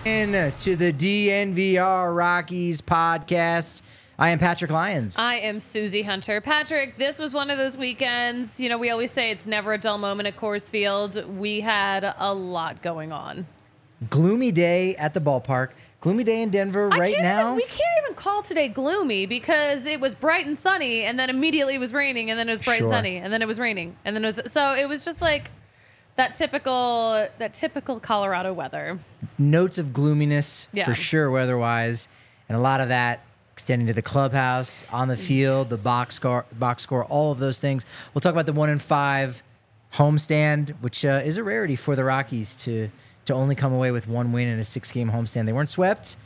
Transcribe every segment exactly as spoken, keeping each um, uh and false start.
In to the D N V R Rockies podcast. I am Patrick Lyons. I am Susie Hunter. Patrick, this was one of those weekends. You know, we always say it's never a dull moment at Coors Field. We had a lot going on. Gloomy day at the ballpark. Gloomy day in Denver I right can't now. Even, we can't even call today gloomy because it was bright and sunny, and then immediately it was raining, and then it was bright Sure. and sunny, and then it was raining, and then it was so it was just like that typical that typical Colorado weather. Notes of gloominess Yeah. for sure, weather-wise, and a lot of that extending to the clubhouse, on the field, Yes. the box score, box score, all of those things. We'll talk about the one in five homestand, which uh, is a rarity for the Rockies to to only come away with one win in a six-game homestand. They weren't swept.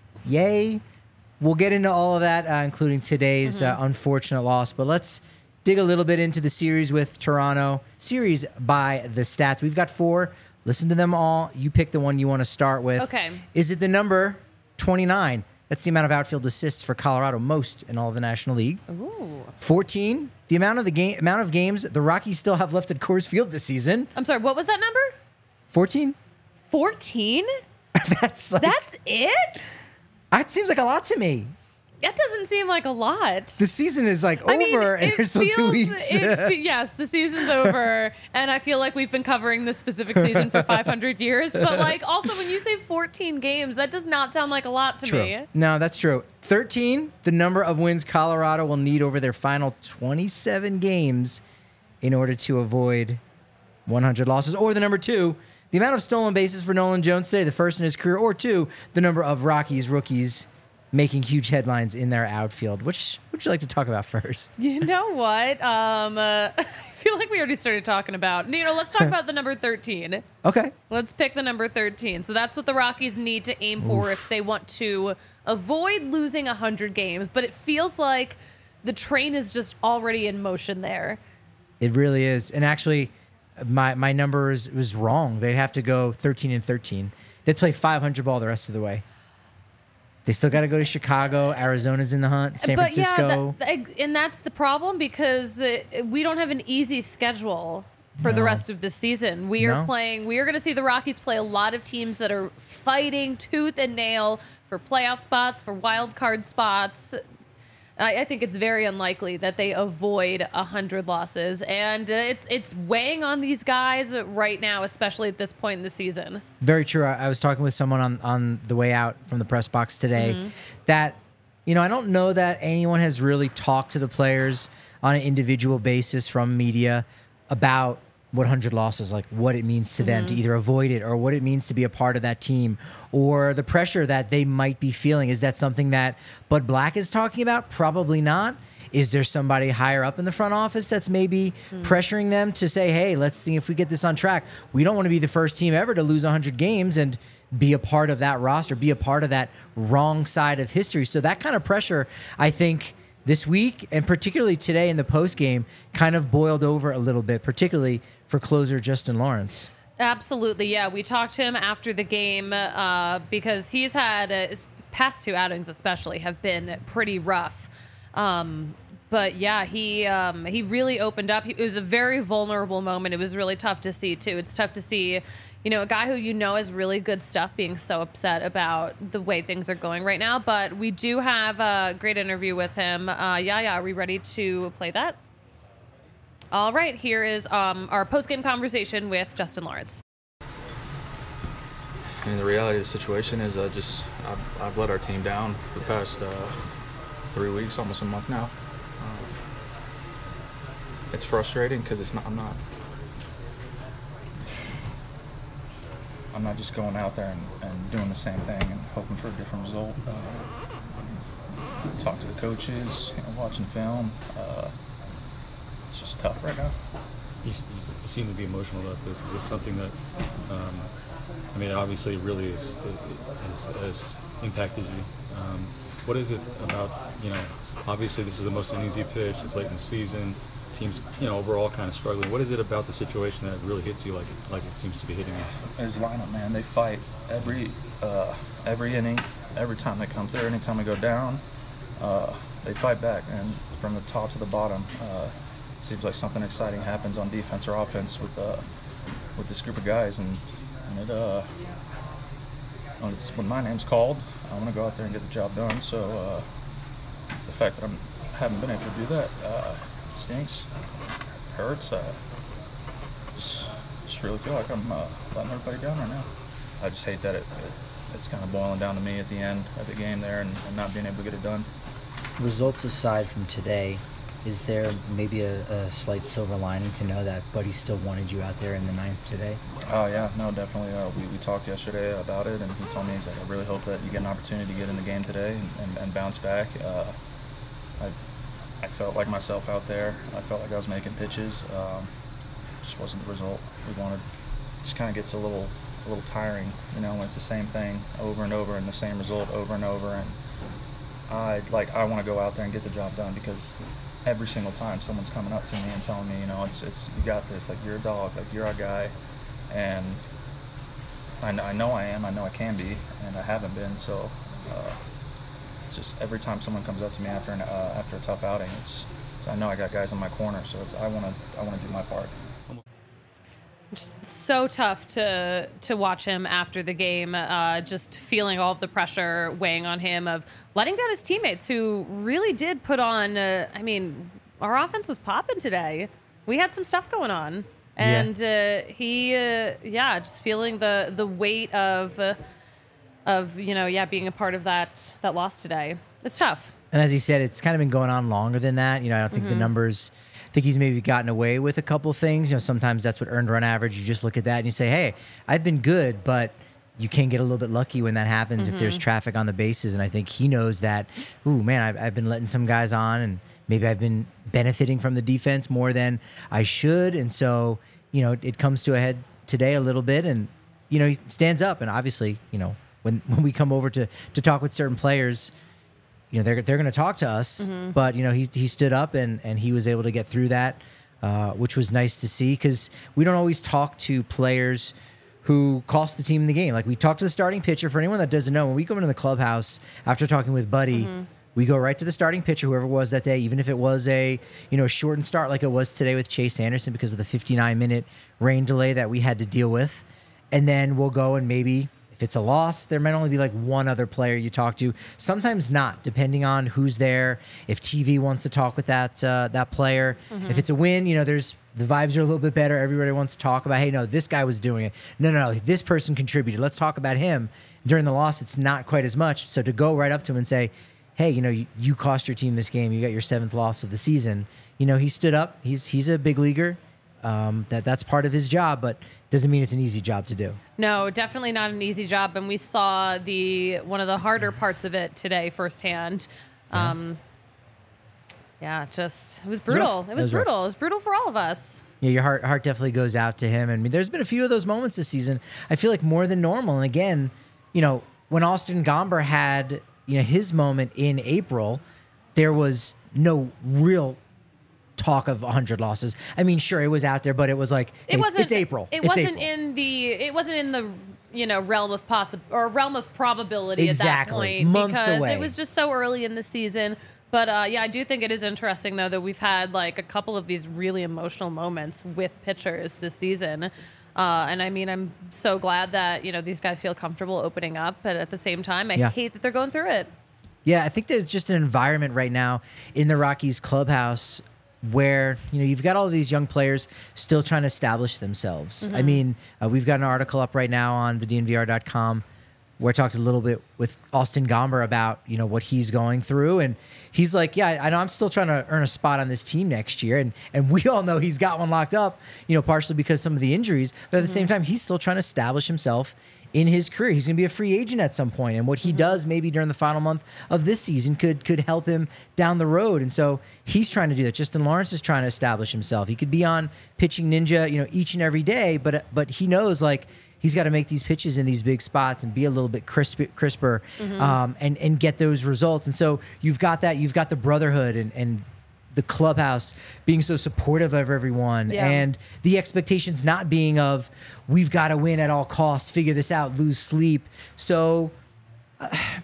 Yay. We'll get into all of that, uh, including today's Mm-hmm. uh, unfortunate loss. But let's dig a little bit into the series with Toronto. Series by the stats. We've got four. Listen to them all. You pick the one you want to start with. Okay. Is it the number twenty-nine? That's the amount of outfield assists for Colorado, most in all of the National League. Ooh. fourteen, the amount of the game amount of games the Rockies still have left at Coors Field this season. I'm sorry, what was that number? fourteen? fourteen? That's like, That's it? that seems like a lot to me. That doesn't seem like a lot. The season is like I mean, over, and it there's still two feels- weeks. it fe- yes, the season's over, and I feel like we've been covering this specific season for five hundred years. But like, also when you say fourteen games, that does not sound like a lot to True. me. No, that's true. thirteen, the number of wins Colorado will need over their final twenty-seven games in order to avoid one hundred losses. Or the number two, the amount of stolen bases for Nolan Jones today, the first in his career. Or two, the number of Rockies rookies making huge headlines in their outfield. Which would you like to talk about first? You know what? Um, uh, I feel like we already started talking about. You know, let's talk about the number thirteen. Okay. Let's pick the number thirteen. So that's what the Rockies need to aim for if they want to avoid losing one hundred games. But it feels like the train is just already in motion there. It really is. And actually, my my number is, was wrong. They'd have to go thirteen and thirteen. They'd play five hundred ball the rest of the way. They still got to go to Chicago. Arizona's in the hunt. San but Francisco. yeah, that, and that's the problem because uh, we don't have an easy schedule for the No. rest of the season. We are No. playing. We are going to see the Rockies play a lot of teams that are fighting tooth and nail for playoff spots, for wild card spots. I, I think it's very unlikely that they avoid a hundred losses, and uh, it's it's weighing on these guys right now, especially at this point in the season. Very true. I, I was talking with someone on, on the way out from the press box today Mm-hmm. that, you know, I don't know that anyone has really talked to the players on an individual basis from media about one hundred losses, like what it means to them to either avoid it or what it means to be a part of that team or the pressure that they might be feeling. Is that something that Bud Black is talking about? Probably not. Is there somebody higher up in the front office that's maybe pressuring them to say, hey, let's see if we get this on track? We don't want to be the first team ever to lose one hundred games and be a part of that roster, be a part of that wrong side of history. So that kind of pressure, I think, this week and particularly today in the postgame kind of boiled over a little bit, particularly for closer Justin Lawrence. Absolutely, yeah. We talked to him after the game uh, because he's had uh, his past two outings, especially, have been pretty rough. Um, but yeah, he um, he really opened up. He, it was a very vulnerable moment. It was really tough to see too. It's tough to see, you know, a guy who you know has really good stuff being so upset about the way things are going right now. But we do have a great interview with him. Uh, yeah, yeah. Are we ready to play that? All right, here is um, our post-game conversation with Justin Lawrence. I mean, the reality of the situation is I just, I've, I've let our team down for the past uh, three weeks, almost a month now. Uh, it's frustrating because it's not, I'm not, I'm not just going out there and, and doing the same thing and hoping for a different result. Uh, talk to the coaches, you know, watching film. Uh, it's just tough right now. You, you seem to be emotional about this. Is this something that, um, I mean, obviously, it really is has, has impacted you. Um, what is it about? You know, obviously, this is the most uneasy pitch. It's late in the season. Teams, you know, overall kind of struggling. What is it about the situation that really hits you like like it seems to be hitting you? His lineup, man, they fight every uh, every inning, every time they come through. Anytime we go down, uh, they fight back, and from the top to the bottom. Uh, Seems like something exciting happens on defense or offense with uh, with this group of guys, and, and it uh, when, it's, when my name's called, I want to go out there and get the job done. So uh, the fact that I'm, I haven't been able to do that uh, stinks, hurts. Uh, just, just really feel like I'm uh, letting everybody down right now. I just hate that it, it it's kind of boiling down to me at the end of the game there and, and not being able to get it done. Results aside from today, is there maybe a, a slight silver lining to know that Buddy still wanted you out there in the ninth today? Oh yeah, no, definitely. Uh, we, we talked yesterday about it, and he told me, he's like, I really hope that you get an opportunity to get in the game today and, and, and bounce back. Uh, I I felt like myself out there. I felt like I was making pitches. Um, just wasn't the result we wanted. Just kind of gets a little a little tiring, you know, when it's the same thing over and over and the same result over and over. And I like I want to go out there and get the job done, because every single time someone's coming up to me and telling me, you know, it's it's you got this, like you're a dog, like you're a guy, and I, I know I am, I know I can be, and I haven't been. So uh, it's just every time someone comes up to me after an uh, after a tough outing, it's, it's I know I got guys in my corner, so it's I want to I want to do my part. Just so tough to to watch him after the game, uh, just feeling all of the pressure weighing on him of letting down his teammates who really did put on, uh, I mean, our offense was popping today. We had some stuff going on. And yeah. uh, he, uh, yeah, just feeling the, the weight of, uh, of you know, yeah, being a part of that, that loss today. It's tough. And as he said, it's kind of been going on longer than that. You know, I don't think mm-hmm. the numbers... I think he's maybe gotten away with a couple things. You know, sometimes that's what earned run average. You just look at that and you say, hey, I've been good, but you can get a little bit lucky when that happens mm-hmm. if there's traffic on the bases. And I think he knows that, ooh, man, I've, I've been letting some guys on, and maybe I've been benefiting from the defense more than I should. And so, you know, it comes to a head today a little bit, and, you know, he stands up. And obviously, you know, when, when we come over to, to talk with certain players, you know, they're they're going to talk to us, mm-hmm. but, you know, he he stood up and, and he was able to get through that, uh, which was nice to see, because we don't always talk to players who cost the team the game. Like, we talk to the starting pitcher. For anyone that doesn't know, when we go into the clubhouse after talking with Buddy, mm-hmm. we go right to the starting pitcher, whoever it was that day, even if it was a, you know, shortened start like it was today with Chase Anderson because of the fifty-nine minute rain delay that we had to deal with. And then we'll go and maybe... if it's a loss, there might only be like one other player you talk to. Sometimes not, depending on who's there. If T V wants to talk with that uh, that player. Mm-hmm. If it's a win, you know, there's the vibes are a little bit better. Everybody wants to talk about, hey, no, this guy was doing it. No, no, no, this person contributed. Let's talk about him. During the loss, it's not quite as much. So to go right up to him and say, hey, you know, you, you cost your team this game. You got your seventh loss of the season. You know, he stood up. He's he's a big leaguer. Um, that that's part of his job, but doesn't mean it's an easy job to do. No, definitely not an easy job, and we saw the one of the harder parts of it today firsthand. Um, yeah. yeah, just it was brutal. It was, it was brutal. Rough. It was brutal for all of us. Yeah, your heart heart definitely goes out to him. And I mean, there's been a few of those moments this season. I feel like more than normal. And again, you know, when Austin Gomber had you know his moment in April, there was no real talk of one hundred losses. I mean, sure, it was out there, but it was like it wasn't. It's April. It it's wasn't April. in the. It wasn't in the you know realm of possi- or realm of probability exactly. at that point Months because away. It was just so early in the season. But uh, yeah, I do think it is interesting though that we've had like a couple of these really emotional moments with pitchers this season. Uh, and I mean, I'm so glad that you know these guys feel comfortable opening up, but at the same time, I yeah. hate that they're going through it. Yeah, I think there's just an environment right now in the Rockies clubhouse where, you know, you've got all of these young players still trying to establish themselves. Mm-hmm. I mean, uh, we've got an article up right now on the D N V R dot com where I talked a little bit with Austin Gomber about, you know, what he's going through. And he's like, yeah, I know I'm still trying to earn a spot on this team next year. And and we all know he's got one locked up, you know, partially because of some of the injuries. But at the mm-hmm. same time, he's still trying to establish himself in his career. He's going to be a free agent at some point, and what he mm-hmm. does maybe during the final month of this season could could help him down the road. And so he's trying to do that. Justin Lawrence is trying to establish himself. He could be on Pitching Ninja, you know, each and every day, but but he knows like he's got to make these pitches in these big spots and be a little bit crisp, crisper mm-hmm. um, and and get those results. And so you've got that. You've got the brotherhood and and. the clubhouse being so supportive of everyone yeah. and the expectations not being of we've got to win at all costs, figure this out, lose sleep. So uh,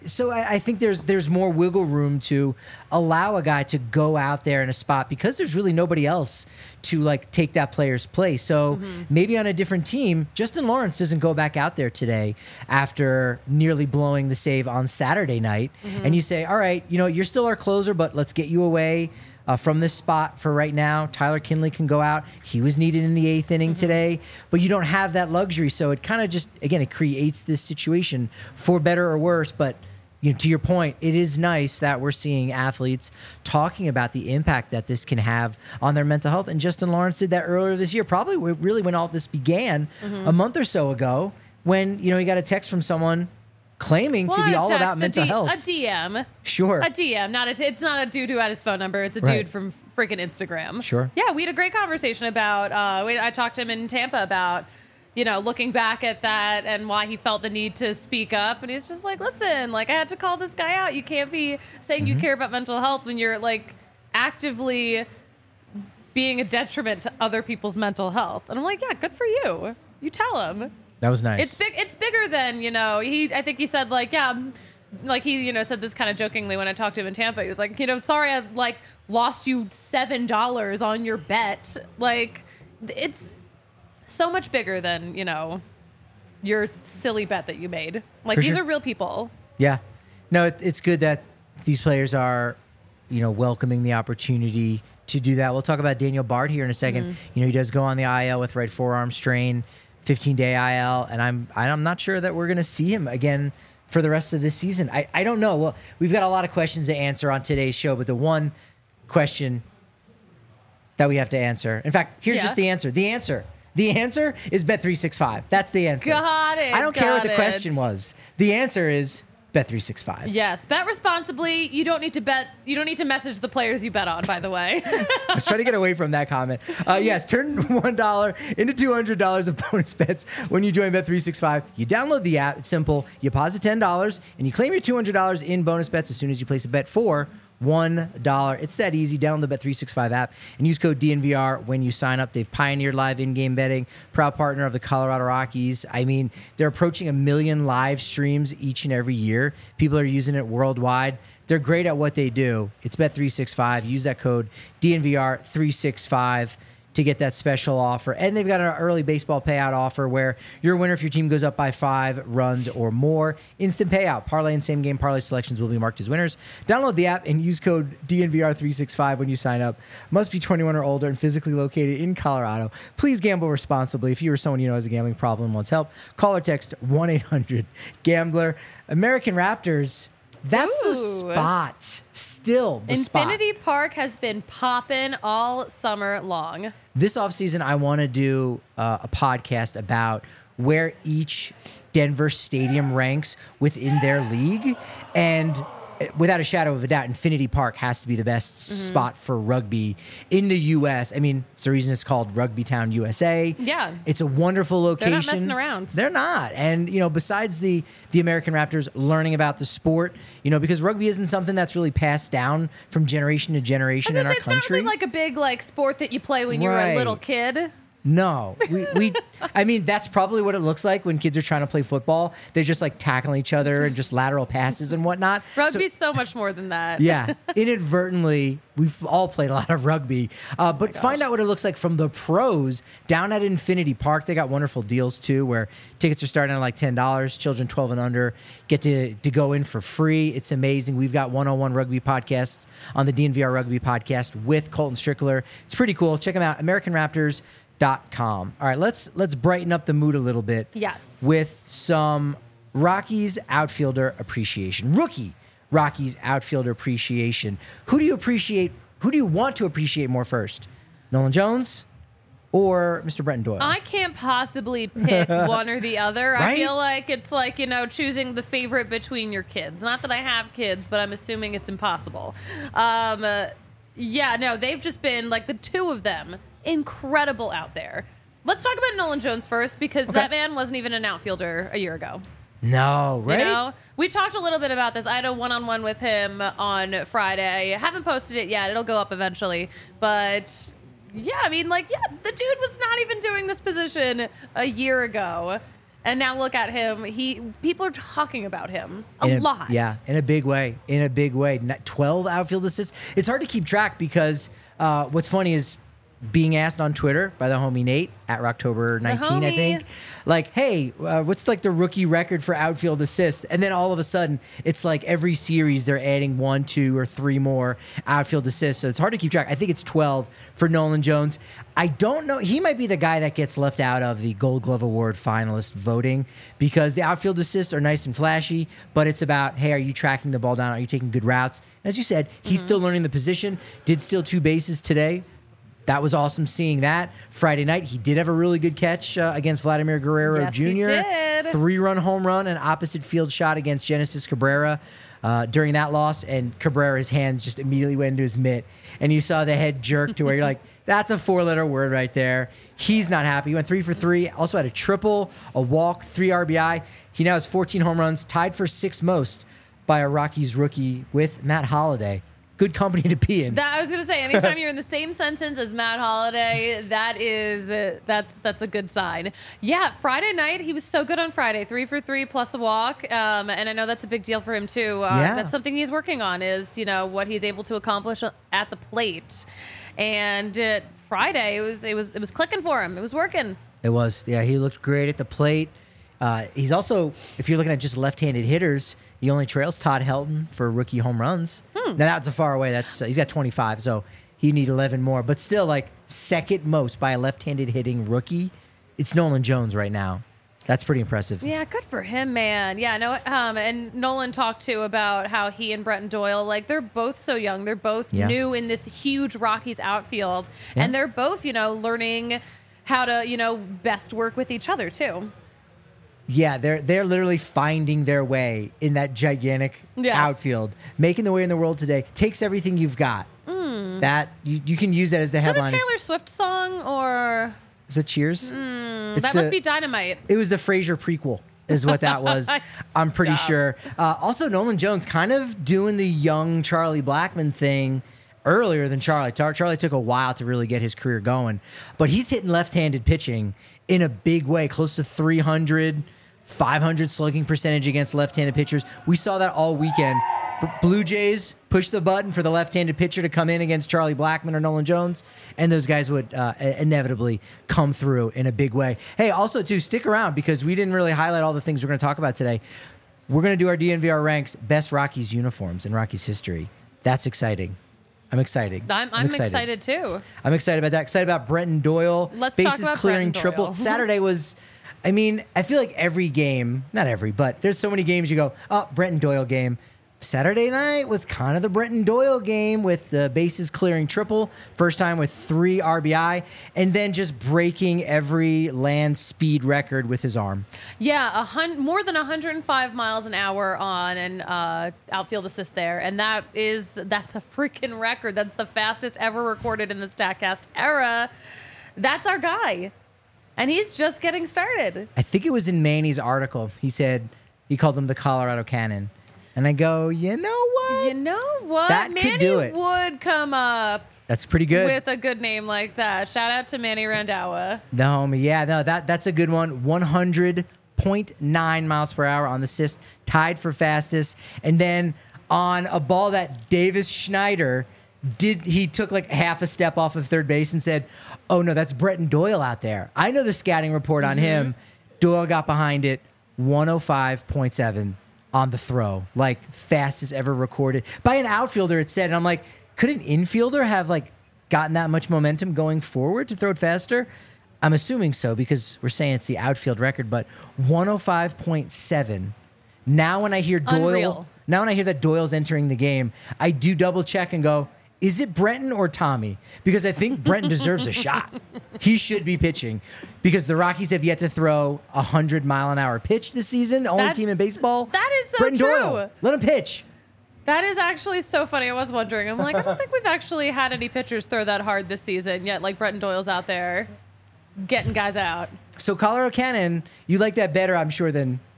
so I, I think there's there's more wiggle room to allow a guy to go out there in a spot because there's really nobody else to like take that player's place. So Mm-hmm. maybe on a different team, Justin Lawrence doesn't go back out there today after nearly blowing the save on Saturday night, Mm-hmm. and you say, all right, you know, you're still our closer, but let's get you away. Uh, from this spot for right now. Tyler Kinley can go out. He was needed in the eighth inning today, but you don't have that luxury. So it kind of just, again, it creates this situation for better or worse. But you know, to your point, it is nice that we're seeing athletes talking about the impact that this can have on their mental health. And Justin Lawrence did that earlier this year, probably really when all this began a month or so ago, when, you know, he got a text from someone claiming Well, to be a all text, about a mental D- health. A D M. Sure. A D M, not a. T- it's not a dude who had his phone number. It's a Right. dude from freaking Instagram. Sure. Yeah, we had a great conversation about. Uh, we, I talked to him in Tampa about, you know, looking back at that and why he felt the need to speak up. And he's just like, listen, like I had to call this guy out. You can't be saying Mm-hmm. you care about mental health when you're like actively being a detriment to other people's mental health. And I'm like, yeah, good for you. You tell him. That was nice. It's big. It's bigger than, you know. He. I think he said like, yeah, mm, like he, you know, said this kind of jokingly when I talked to him in Tampa. He was like, you know, sorry, I like lost you seven dollars on your bet. Like, it's so much bigger than, you know, your silly bet that you made. Like For these sure. are real people. Yeah. No, it, it's good that these players are, you know, welcoming the opportunity to do that. We'll talk about Daniel Bard here in a 2nd Mm-hmm. You know, he does go on the I L with right forearm strain, fifteen-day I L, and I'm I'm not sure that we're going to see him again for the rest of this season. I, I don't know. Well, we've got a lot of questions to answer on today's show, but the one question that we have to answer, in fact, here's Yeah. just the answer. The answer. The answer is Bet three sixty-five. That's the answer. Got it, I don't care what got the it. question was. The answer is Bet three sixty-five. Yes, bet responsibly. You don't need to bet. You don't need to message the players you bet on. By the way. Let's try to get away from that comment. Uh, yes, turn one dollar into two hundred dollars of bonus bets when you join Bet three sixty-five. You download the app. It's simple. You deposit ten dollars, and you claim your two hundred dollars in bonus bets as soon as you place a bet for one dollar. It's that easy. Download the Bet three sixty-five app and use code D N V R when you sign up. They've pioneered live in-game betting, proud partner of the Colorado Rockies. I mean, they're approaching a million live streams each and every year. People are using it worldwide. They're great at what they do. It's Bet three sixty-five. Use that code D N V R three sixty-five to get that special offer. And they've got an early baseball payout offer where you're a winner if your team goes up by five runs or more. Instant payout. Parlay and same game parlay selections will be marked as winners. Download the app and use code D N V R three sixty-five when you sign up. Must be twenty-one or older and physically located in Colorado. Please gamble responsibly. If you or someone you know has a gambling problem and wants help, call or text one eight hundred gambler. American Raptors, that's the Ooh. spot. Still the spot. Infinity Park has been popping all summer long. This offseason, I want to do uh, a podcast about where each Denver stadium ranks within their league. And uh, without a shadow of a doubt, Infinity Park has to be the best Mm-hmm. spot for rugby in the U S. I mean, it's the reason it's called Rugby Town, U S A. Yeah. It's a wonderful location. They're not messing around. They're not. And, you know, besides the, the American Raptors learning about the sport, you know, because rugby isn't something that's really passed down from generation to generation I in was our gonna say, it's country. not really like a big like sport that you play when you were Right. a little kid. No, we, we I mean, that's probably what it looks like when kids are trying to play football. They're just like tackling each other and just lateral passes and whatnot. So- Rugby's so, much more than that. yeah, inadvertently, we've all played a lot of rugby. Uh, but find out what it looks like from the pros down at Infinity Park. They got wonderful deals too, where tickets are starting at like ten dollars. Children twelve and under get to, to go in for free. It's amazing. We've got one oh one rugby podcasts on the D N V R Rugby podcast with Colton Strickler. It's pretty cool. Check them out. American Raptors. Dot com. All right, let's let's brighten up the mood a little bit. Yes. With some Rockies outfielder appreciation. Rookie Rockies outfielder appreciation. Who do you appreciate? Who do you want to appreciate more first? Nolan Jones or Mister Brenton Doyle? I can't possibly pick one or the other. I Right? feel like it's like, you know, choosing the favorite between your kids. Not that I have kids, but I'm assuming it's impossible. Um, uh, yeah, no, they've just been like the two of them. Incredible out there. Let's talk about Nolan Jones first because that man wasn't even an outfielder a year ago. no, right? You know, we talked a little bit about this. I had a one-on-one with him on Friday. I haven't posted it yet. It'll go up eventually. But yeah, I mean, like, yeah, the dude was not even doing this position a year ago. And now look at him. He people are talking about him a, In lot. Yeah, in a big way. In a big way. Not- twelve outfield assists. It's hard to keep track because uh, what's funny is being asked on Twitter by the homie Nate at Rocktober nineteen, I homie. think, like, hey, uh, what's like the rookie record for outfield assists? And then all of a sudden, it's like every series they're adding one, two, or three more outfield assists. So it's hard to keep track. I think it's twelve for Nolan Jones. I don't know. He might be the guy that gets left out of the Gold Glove Award finalist voting because the outfield assists are nice and flashy, but it's about, hey, are you tracking the ball down? Are you taking good routes? As you said, he's still learning the position. Did steal two bases today. That was awesome seeing that. Friday night, he did have a really good catch uh, against Vladimir Guerrero Yes, he Junior did. Three-run home run, an opposite field shot against Genesis Cabrera uh, during that loss, and Cabrera's hands just immediately went into his mitt. And you saw the head jerk to where you're like, that's a four-letter word right there. He's not happy. He went three for three. Also had a triple, a walk, three R B I. He now has fourteen home runs, tied for sixth most by a Rockies rookie with Matt Holliday. Good company to be in. That I was gonna say, anytime you're in the same sentence as Matt Holliday, that is uh, that's that's a good sign. Yeah, Friday night he was so good on Friday, three for three plus a walk, um, and I know that's a big deal for him too. Uh, Yeah. That's something he's working on is you know what he's able to accomplish at the plate, and uh, Friday it was it was it was clicking for him. It was working. It was. Yeah, he looked great at the plate. Uh, he's also, if you're looking at just left-handed hitters, he only trails Todd Helton for rookie home runs. Hmm. Now that's a far away. That's uh, he's got twenty-five, so he need eleven more. But still, like second most by a left-handed hitting rookie, it's Nolan Jones right now. That's pretty impressive. Yeah, good for him, man. Yeah, no, um, and Nolan talked too about how he and Bretton Doyle, like they're both so young. They're both Yeah. new in this huge Rockies outfield, Yeah. and they're both, you know, learning how to, you know, best work with each other too. Yeah, they're they're literally finding their way in that gigantic Yes. outfield, making the way in the world today. Takes everything you've got. That you, you can use that as the Is that a headline. Taylor Swift song or Is it Cheers? It's that the- must be Dynamite? It was the Frasier prequel, is what that was. I'm pretty Stop. sure. Uh, also, Nolan Jones kind of doing the young Charlie Blackmon thing earlier than Charlie. Char- Charlie took a while to really get his career going, but he's hitting left-handed pitching in a big way, close to three hundred, five hundred slugging percentage against left-handed pitchers. We saw that all weekend. B- Blue Jays push the button for the left-handed pitcher to come in against Charlie Blackmon or Nolan Jones, and those guys would uh, inevitably come through in a big way. Hey, also, too, stick around because we didn't really highlight all the things we're going to talk about today. We're going to do our D N V R ranks best Rockies uniforms in Rockies history. That's exciting. I'm excited. I'm, I'm excited. too. I'm excited about that. Excited about Bretton Doyle. Let's talk Bases about clearing Bretton triple. Doyle. Saturday was, I mean, I feel like every game, not every, but there's so many games you go, oh, Bretton Doyle game. Saturday night was kind of the Bretton Doyle game with the bases clearing triple, first time with three R B I, and then just breaking every land speed record with his arm. Yeah, a hun- more than one hundred five miles an hour on an uh, outfield assist there, and that is that's a freaking record. That's the fastest ever recorded in the Statcast era. That's our guy, and he's just getting started. I think it was in Manny's article. He said he called them the Colorado Cannon. And I go, you know what? You know what? That could Manny do it. would come up That's pretty good. with a good name like that. Shout out to Manny Randawa. The homie, yeah, no, that that's a good one. one hundred point nine miles per hour on the assist, tied for fastest. And then on a ball that Davis Schneider did, he took like half a step off of third base and said, "Oh no, that's Bretton Doyle out there." I know the scouting report on him. Doyle got behind it, one oh five point seven on the throw, like fastest ever recorded by an outfielder. It said, and I'm like, could an infielder have like gotten that much momentum going forward to throw it faster? I'm assuming so because we're saying it's the outfield record, but one oh five point seven. Now when I hear Doyle, Unreal. now when I hear that Doyle's entering the game, I do double check and go, is it Brenton or Tommy? Because I think Brenton deserves a shot. He should be pitching because the Rockies have yet to throw a hundred mile an hour pitch this season. The only That's- team in baseball. that is so Brenton true. Doyle. Let him pitch. That is actually so funny. I was wondering. I'm like, I don't think we've actually had any pitchers throw that hard this season yet. Like Bretton Doyle's out there getting guys out. So Colorado Cannon, you like that better, I'm sure, than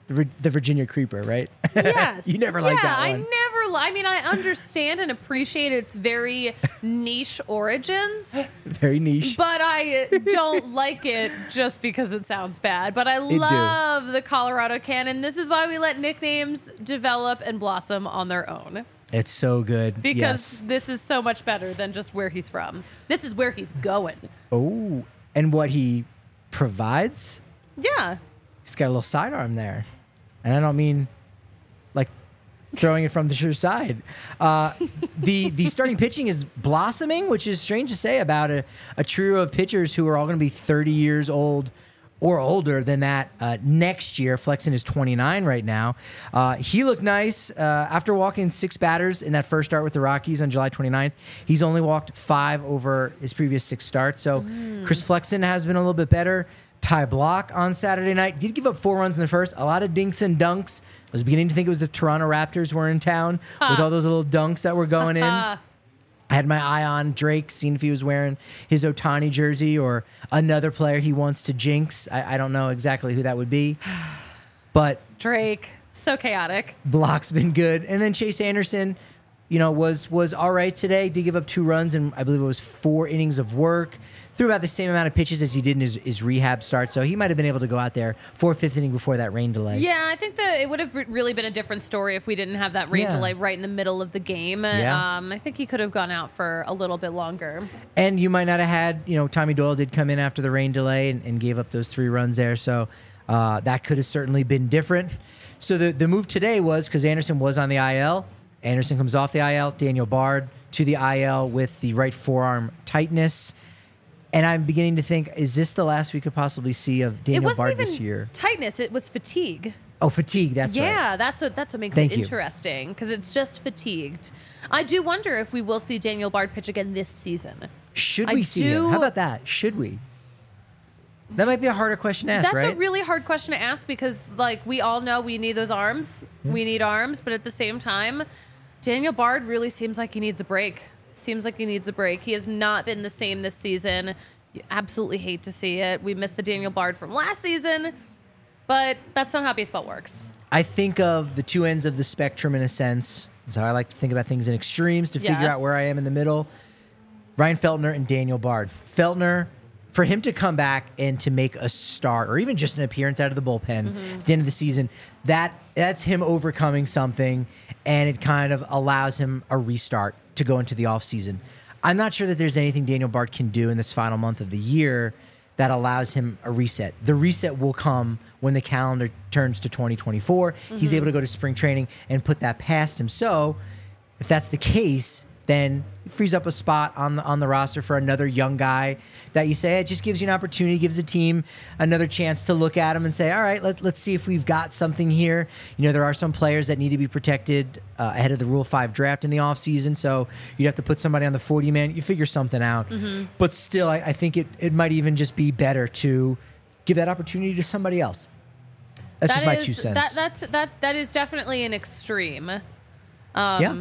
the, Vir- the Virginia Creeper, right? Yes. You never liked yeah, that one. I never. Li- I mean, I understand and appreciate its very niche origins, Very niche. but I don't like it just because it sounds bad. But I do. love the Colorado canon. This is why we let nicknames develop and blossom on their own. It's so good. Because yes. this is so much better than just where he's from. This is where he's going. Oh, and what he provides? Yeah. He's got a little sidearm there. And I don't mean like throwing it from the sure side. Uh, the the starting pitching is blossoming, which is strange to say about a, a trio of pitchers who are all going to be thirty years old or older than that uh, next year. Flexen is twenty-nine right now. Uh, he looked nice. Uh, after walking six batters in that first start with the Rockies on July twenty-ninth, he's only walked five over his previous six starts. So mm. Chris Flexen has been a little bit better. Ty Block on Saturday night did give up four runs in the first. A lot of dinks and dunks. I was beginning to think it was the Toronto Raptors were in town huh. with all those little dunks that were going in. I had my eye on Drake, seeing if he was wearing his Ohtani jersey or another player he wants to jinx. I, I don't know exactly who that would be. But Drake, so chaotic. Block's been good. And then Chase Anderson, you know, was was all right today. Did give up two runs and I believe it was four innings of work. Threw about the same amount of pitches as he did in his, his rehab start. So he might have been able to go out there for fifth inning before that rain delay. Yeah, I think that it would have re- really been a different story if we didn't have that rain Yeah. delay right in the middle of the game. Yeah. Um, I think he could have gone out for a little bit longer. And you might not have had, you know, Tommy Doyle did come in after the rain delay and, and gave up those three runs there. So uh, that could have certainly been different. So the, the move today was because Anderson was on the I L. Anderson comes off the I L. Daniel Bard to the I L with the right forearm tightness. And I'm beginning to think, is this the last we could possibly see of It Daniel wasn't Bard even this year? tightness; it was fatigue. Oh, fatigue. That's right. Yeah, that's what that's what makes Thank it you. interesting because it's just fatigued. I do wonder if we will see Daniel Bard pitch again this season. Should I we see do- him? How about that? Should we? That might be a harder question to ask, That's right? a really hard question to ask because, like, we all know we need those arms. Hmm. We need arms, but at the same time, Daniel Bard really seems like he needs a break. Seems like he needs a break. He has not been the same this season. You absolutely hate to see it. We missed the Daniel Bard from last season, but that's not how baseball works. I think of the two ends of the spectrum in a sense. So I like to think about things in extremes to figure Yes. out where I am in the middle. Ryan Feltner and Daniel Bard. Feltner, for him to come back and to make a start or even just an appearance out of the bullpen Mm-hmm. at the end of the season, that that's him overcoming something, and it kind of allows him a restart to go into the offseason. I'm not sure that there's anything Daniel Bard can do in this final month of the year that allows him a reset. The reset will come when the calendar turns to twenty twenty-four. Mm-hmm. He's able to go to spring training and put that past him. So if that's the case, then it frees up a spot on the on the roster for another young guy that you say it just gives you an opportunity, gives the team another chance to look at him and say, all right, let, let's see if we've got something here. You know, there are some players that need to be protected uh, ahead of the Rule five draft in the offseason, so you'd have to put somebody on the forty-man. You figure something out. Mm-hmm. But still, I, I think it, it might even just be better to give that opportunity to somebody else. That's That just my is- two cents. That, that's, that, that is definitely an extreme. Um, yeah.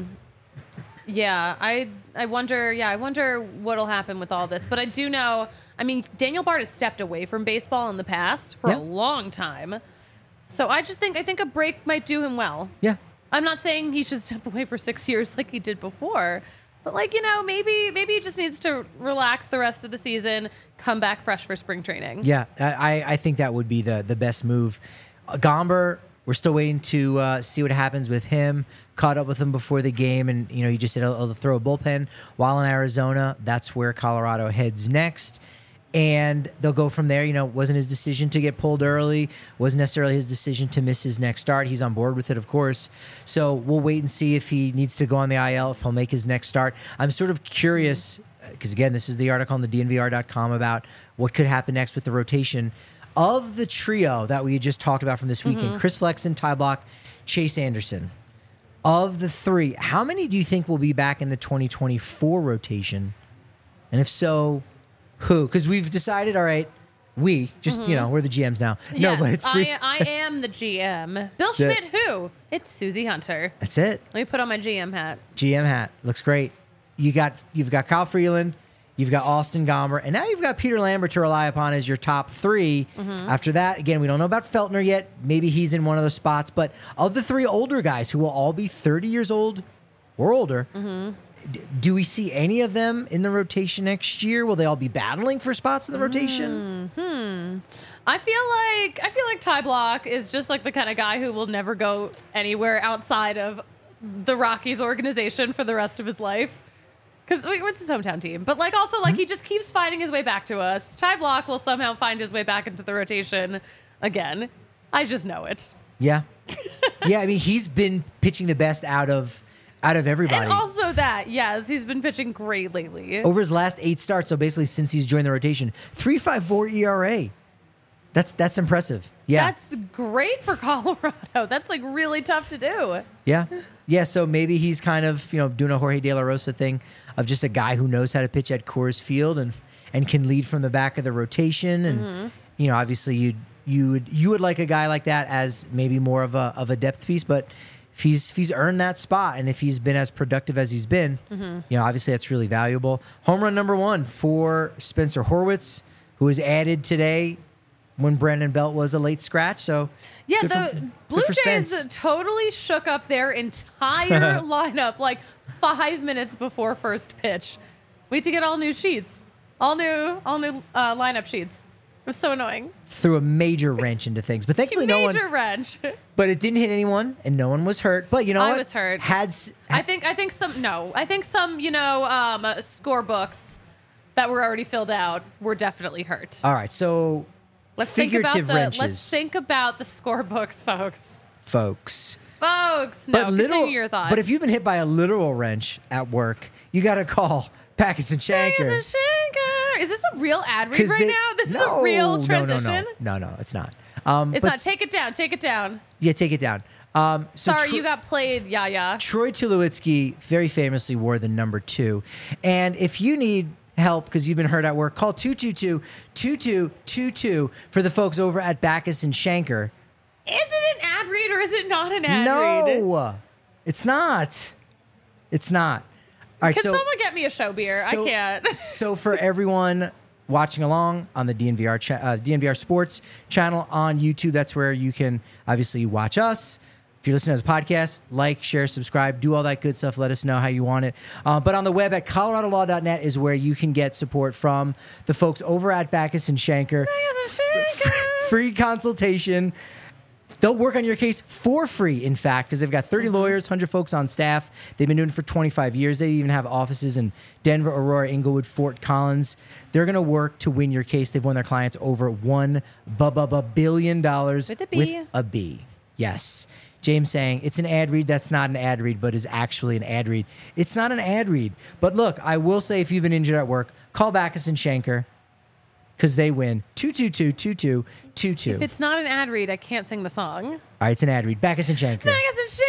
Yeah, I I wonder. Yeah, I wonder what'll happen with all this. But I do know. I mean, Daniel Bard has stepped away from baseball in the past for Yeah. a long time. So I just think I think a break might do him well. Yeah. I'm not saying he should step away for six years like he did before, but like you know, maybe maybe he just needs to relax the rest of the season, come back fresh for spring training. Yeah, I, I think that would be the the best move. Uh, Gomber, we're still waiting to uh, see what happens with him. Caught up with him before the game, and you know, he just said he'll, he'll throw a bullpen while in Arizona. That's where Colorado heads next, and they'll go from there. You know, it wasn't his decision to get pulled early. Wasn't necessarily his decision to miss his next start. He's on board with it, of course. So we'll wait and see if he needs to go on the I L, if he'll make his next start. I'm sort of curious because again, this is the article on the D N V R dot com about what could happen next with the rotation of the trio that we just talked about from this weekend. Mm-hmm. Chris Flexen, Ty Block, Chase Anderson. Of the three, how many do you think will be back in the twenty twenty-four rotation? And if so, who? Because we've decided, all right, we, just, you know, we're the G Ms now. Yes, no, but it's free. I, I am the G M. Bill it. Schmidt, who? It's Susie Hunter. That's it. Let me put on my G M hat. G M hat. Looks great. You got, you've got Kyle Freeland. You've got Austin Gomber, and now you've got Peter Lambert to rely upon as your top three. Mm-hmm. After that, again, we don't know about Feltner yet. Maybe he's in one of those spots. But of the three older guys who will all be thirty years old or older, Mm-hmm. d- do we see any of them in the rotation next year? Will they all be battling for spots in the rotation? Mm-hmm. I feel like I feel like Ty Block is just like the kind of guy who will never go anywhere outside of the Rockies organization for the rest of his life. Because it's his hometown team. But like also like he just keeps finding his way back to us. Ty Block will somehow find his way back into the rotation again. I just know it. Yeah. Yeah, I mean, he's been pitching the best out of out of everybody. And also that, yes, he's been pitching great lately. Over his last eight starts, so basically since he's joined the rotation, three point five four E R A. That's that's impressive. Yeah. That's great for Colorado. That's like really tough to do. Yeah. Yeah, so maybe he's kind of, you know, doing a Jorge De La Rosa thing of just a guy who knows how to pitch at Coors Field and and can lead from the back of the rotation. And Mm-hmm. you know, obviously you you would you would like a guy like that as maybe more of a of a depth piece, but if he's if he's earned that spot and if he's been as productive as he's been, Mm-hmm. you know, obviously that's really valuable. Home run number one for Spencer Horwitz, who was added today when Brandon Belt was a late scratch. So Yeah, good the for- good Blue for Jays Spence. totally shook up their entire lineup like five minutes before first pitch. We had to get all new sheets, all new, all new uh, lineup sheets. It was so annoying. threw a major wrench into things, but thankfully no one. Major wrench. But it didn't hit anyone, and no one was hurt. But you know I what? was hurt. Had s- I think I think some no. I think some you know um, uh, score books that were already filled out were definitely hurt. all right. So let's think about figurative the wrenches, let's think about the score books, folks. folks. Folks, no, continue your thought. But if you've been hit by a literal wrench at work, you got to call Backus and Shanker. Backus and Shanker. Is this a real ad read 'Cause right they- now? This no, is a real no, transition. No, no, no, no, it's not. Um, It's but not. s- Take it down. Take it down. Yeah, take it down. Um, so Sorry, Tro- you got played, Yaya. Troy Tulowitzki very famously wore the number two. And if you need help because you've been hurt at work, call two two two, two two two two for the folks over at Backus and Shanker. Is it an ad read or is it not an ad read? No, it's not. It's not. All right, Can so, someone get me a show beer? so- I can't. so for everyone watching along on the D N V R cha- uh, D N V R Sports channel on YouTube, that's where you can obviously watch us. If you're listening as a podcast, like, share, subscribe, do all that good stuff. Let us know how you want it. Uh, but on the web at colorado law dot net is where you can get support from the folks over at Backus and Shanker. Backus and Shanker. Free consultation. They'll work on your case for free, in fact, because they've got thirty lawyers, one hundred folks on staff. They've been doing it for twenty-five years. They even have offices in Denver, Aurora, Inglewood, Fort Collins. They're going to work to win your case. They've won their clients over one bu- bu- bu- billion dollars With a B. With a B. Yes. James saying it's an ad read. That's not an ad read, but is actually an ad read. It's not an ad read. But look, I will say if you've been injured at work, call Backus and Shanker because they win two two two, two two two two. If it's not an ad read, I can't sing the song. All right, it's an ad read. Backus and Shanker. Backus and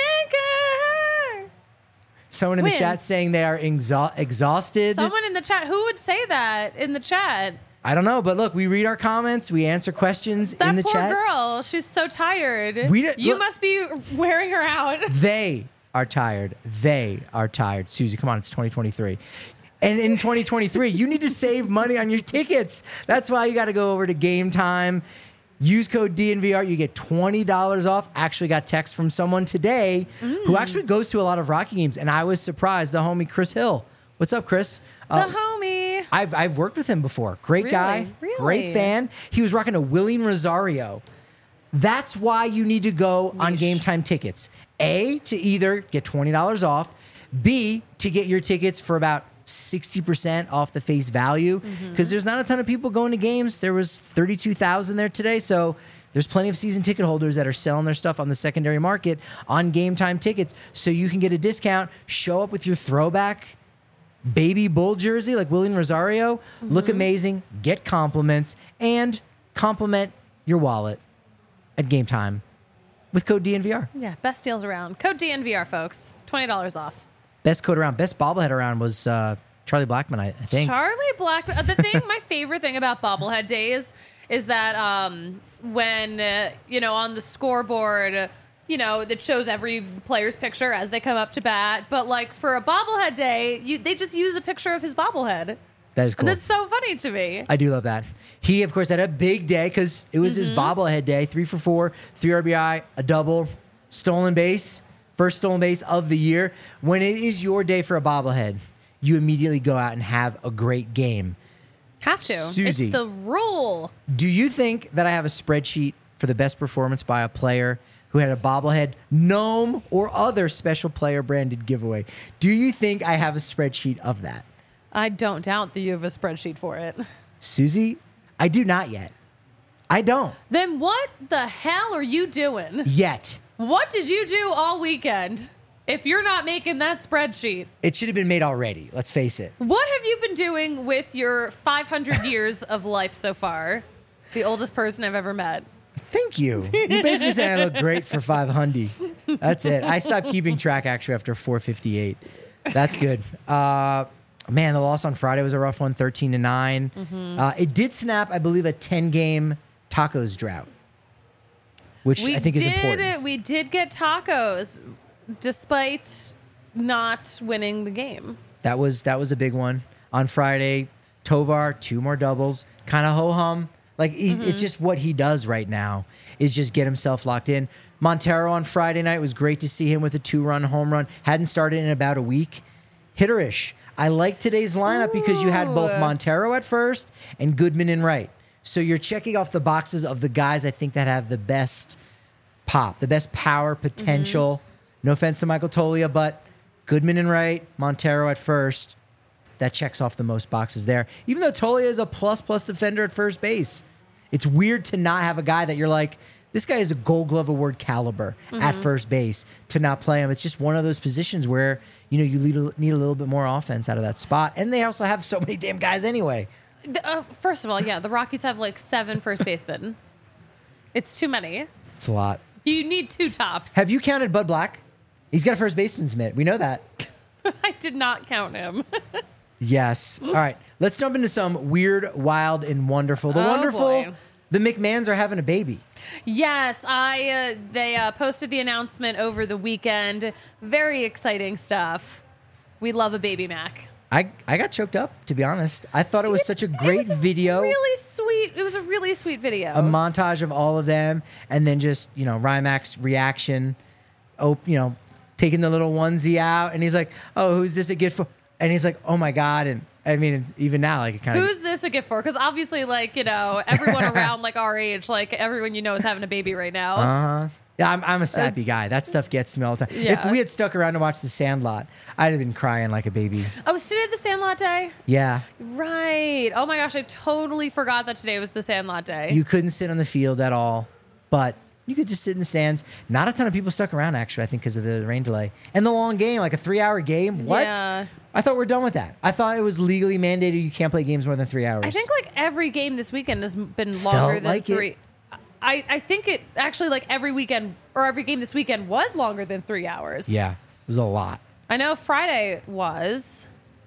Shanker. Someone in the Wins. chat saying they are exha- exhausted. Someone in the chat. Who would say that in the chat? I don't know, but look, we read our comments, we answer questions That in the poor chat. girl. She's so tired. We don't- you look- must be wearing her out. They are tired. They are tired. Susie, come on, it's twenty twenty-three. And in twenty twenty-three, you need to save money on your tickets. That's why you got to go over to Game Time. Use code D N V R. You get twenty dollars off. Actually got text from someone today who actually goes to a lot of Rocky games, and I was surprised. The homie Chris Hill. What's up, Chris? The Uh, homie. I've I've worked with him before. Great Really? guy, Really? great fan. He was rocking a William Rosario. That's why you need to go on Yeesh. Game Time tickets. A, to either get twenty dollars off. B, to get your tickets for about sixty percent off the face value. Because there's not a ton of people going to games. There was thirty-two thousand there today. So there's plenty of season ticket holders that are selling their stuff on the secondary market on Game Time tickets. So you can get a discount, show up with your throwback baby bull jersey like William Rosario, look amazing, get compliments, and compliment your wallet at Game Time with code D N V R. Yeah, best deals around. Code D N V R, folks. twenty dollars off. Best code around, best bobblehead around was uh, Charlie Blackman, I, I think. Charlie Blackman. uh, The thing, my favorite thing about bobblehead days is that um, when, uh, you know, on the scoreboard, uh, you know, that shows every player's picture as they come up to bat. But like for a bobblehead day, you, they just use a picture of his bobblehead. That is cool. And that's so funny to me. I do love that. He, of course, had a big day because it was his bobblehead day. Three for four, three R B I, a double, stolen base, first stolen base of the year. When it is your day for a bobblehead, you immediately go out and have a great game. Have to. Susie. It's the rule. Do you think that I have a spreadsheet for the best performance by a player who had a bobblehead, gnome, or other special player branded giveaway? Do you think I have a spreadsheet of that? I don't doubt that you have a spreadsheet for it. Susie, I do not yet. I don't Then what the hell are you doing? yet. What did you do all weekend if you're not making that spreadsheet? It should have been made already. Let's face it. What have you been doing with your five hundred years of life so far? The oldest person I've ever met. Thank you. You basically said I look great for five hundred. That's it. I stopped keeping track actually after four fifty-eight. That's good. Uh, man, the loss on Friday was a rough one, thirteen to nine. Mm-hmm. Uh, it did snap, I believe, a ten-game tacos drought, which We I think is did, important. We did get tacos, despite not winning the game. That was that was a big one. On Friday, Tovar, two more doubles, kind of ho-hum. Like, he, Mm-hmm. it's just what he does right now is just get himself locked in. Montero on Friday night was great to see him with a two-run home run. Hadn't started in about a week. Hitterish. I like today's lineup because you had both Ooh. Montero at first and Goodman in right. So you're checking off the boxes of the guys I think that have the best pop, the best power potential. Mm-hmm. No offense to Michael Tolia, but Goodman in right, Montero at first. That checks off the most boxes there. Even though Tolia is a plus-plus defender at first base. It's weird to not have a guy that you're like, this guy is a Gold Glove Award caliber at first base, to not play him. It's just one of those positions where, you know, you need a, need a little bit more offense out of that spot. And they also have so many damn guys anyway. The- uh, first of all, yeah, the Rockies have like seven first basemen. It's too many. It's a lot. You need two tops. Have you counted Bud Black? He's got a first baseman's mitt. We know that. I did not count him. Yes. All right. Let's jump into some weird, wild, and wonderful. The Oh, wonderful, boy. the McMahons are having a baby. Yes, I. Uh, they uh, posted the announcement over the weekend. Very exciting stuff. We love a baby Mac. I, I got choked up, to be honest. I thought it was such a great it was a video. Really sweet. It was a really sweet video. A montage of all of them, and then just, you know, Rymack's reaction, oh, you know, taking the little onesie out, and he's like, oh, who's this a gift for? And he's like, oh my God. And I mean, even now, like, it kind of. Who's this a gift for? Because obviously, like, you know, everyone around like our age, like everyone you know is having a baby right now. Uh-huh. Yeah, I'm, I'm a sappy It's- guy. That stuff gets to me all the time. If Yeah. we had stuck around to watch The Sandlot, I'd have been crying like a baby. Oh, was today the Sandlot Day? Yeah. Right. Oh my gosh, I totally forgot that today was the Sandlot Day. You couldn't sit on the field at all, but you could just sit in the stands. Not a ton of people stuck around, actually, I think, because of the rain delay. And the long game, like a three-hour game. What? Yeah. I thought we're done with that. I thought it was legally mandated you can't play games more than three hours. I think like every game this weekend has been longer than like it. three. I, I think it actually like every weekend or every game this weekend was longer than three hours. Yeah, it was a lot. I know Friday was.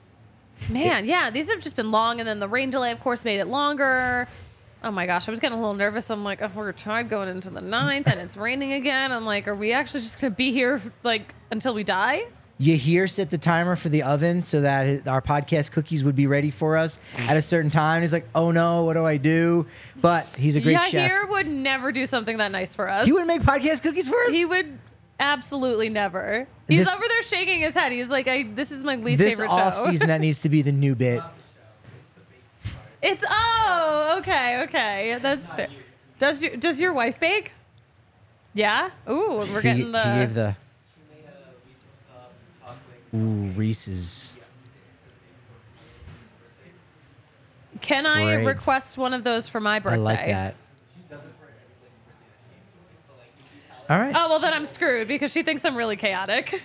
Man, yeah, these have just been long, and then the rain delay, of course, made it longer. Oh my gosh, I was getting a little nervous. I'm like, oh, we're tired going into the ninth, and it's raining again. I'm like, are we actually just gonna be here like until we die? Yahir set the timer for the oven so that his- our podcast cookies would be ready for us at a certain time. He's like, oh no, what do I do? But he's a great Yeah, chef. here would never do something that nice for us. He would make podcast cookies for us? He would absolutely never. He's This- over there shaking his head. He's like, I, this is my least This favorite off show. season, that needs to be the new bit. It's oh, okay, okay, that's fair. Does your does your wife bake? Yeah. Ooh, we're He, getting he the. gave the. Ooh, Reese's. Can I Great. request one of those for my birthday? I like that. All right. Oh well, then I'm screwed because she thinks I'm really chaotic.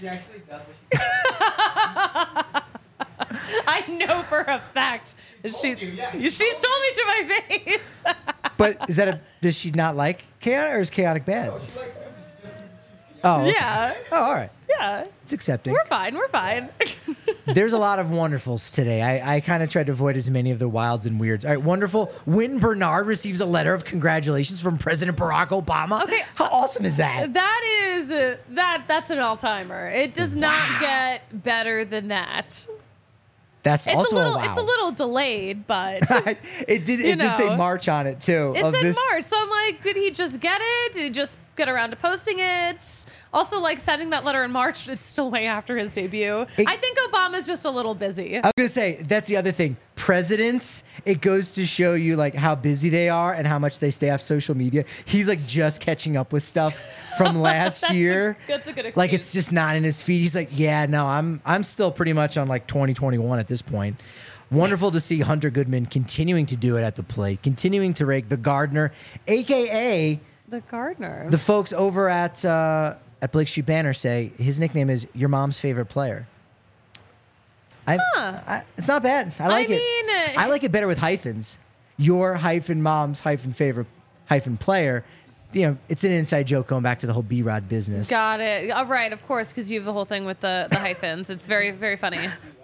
I know for a fact that she she's told me to my face. But is that a? Does she not like chaotic, or is chaotic bad? Oh. okay. Yeah, Oh, all right. yeah, It's accepting. we're fine. We're fine. There's a lot of wonderfuls today. I, I kind of tried to avoid as many of the wilds and weirds. All right, wonderful. Wynton Bernard receives a letter of congratulations from President Barack Obama. Okay. How awesome is that? That is uh, that that's an all timer. It does not get better than that. That's It's also a little, a wow. it's a little delayed, but it did. you It did say know. March on it too. It of said this, March, so I'm like, did he just get it? Did he just get around to posting it? Also, like sending that letter in March, it's still way after his debut. It- I think Obama's just a little busy. I was gonna say that's the other thing. Presidents, it goes to show you like how busy they are and how much they stay off social media. He's like just catching up with stuff from last That's a- year. that's a good Like excuse. it's just not in his feed. He's like, yeah, no, I'm I'm still pretty much on like twenty twenty-one at this point. Wonderful to see Hunter Goodman continuing to do it at the plate, continuing to rake the Gardner, aka The gardener. the folks over at uh, at Blake Street Banner say his nickname is your mom's favorite player. I, Huh. I it's not bad. I like it. mean, uh, I like it better with hyphens. Your hyphen mom's hyphen favorite hyphen player. You know, it's an inside joke going back to the whole B-Rod business. Got it. All right, of course, because you have the whole thing with the, the hyphens. It's very, very funny.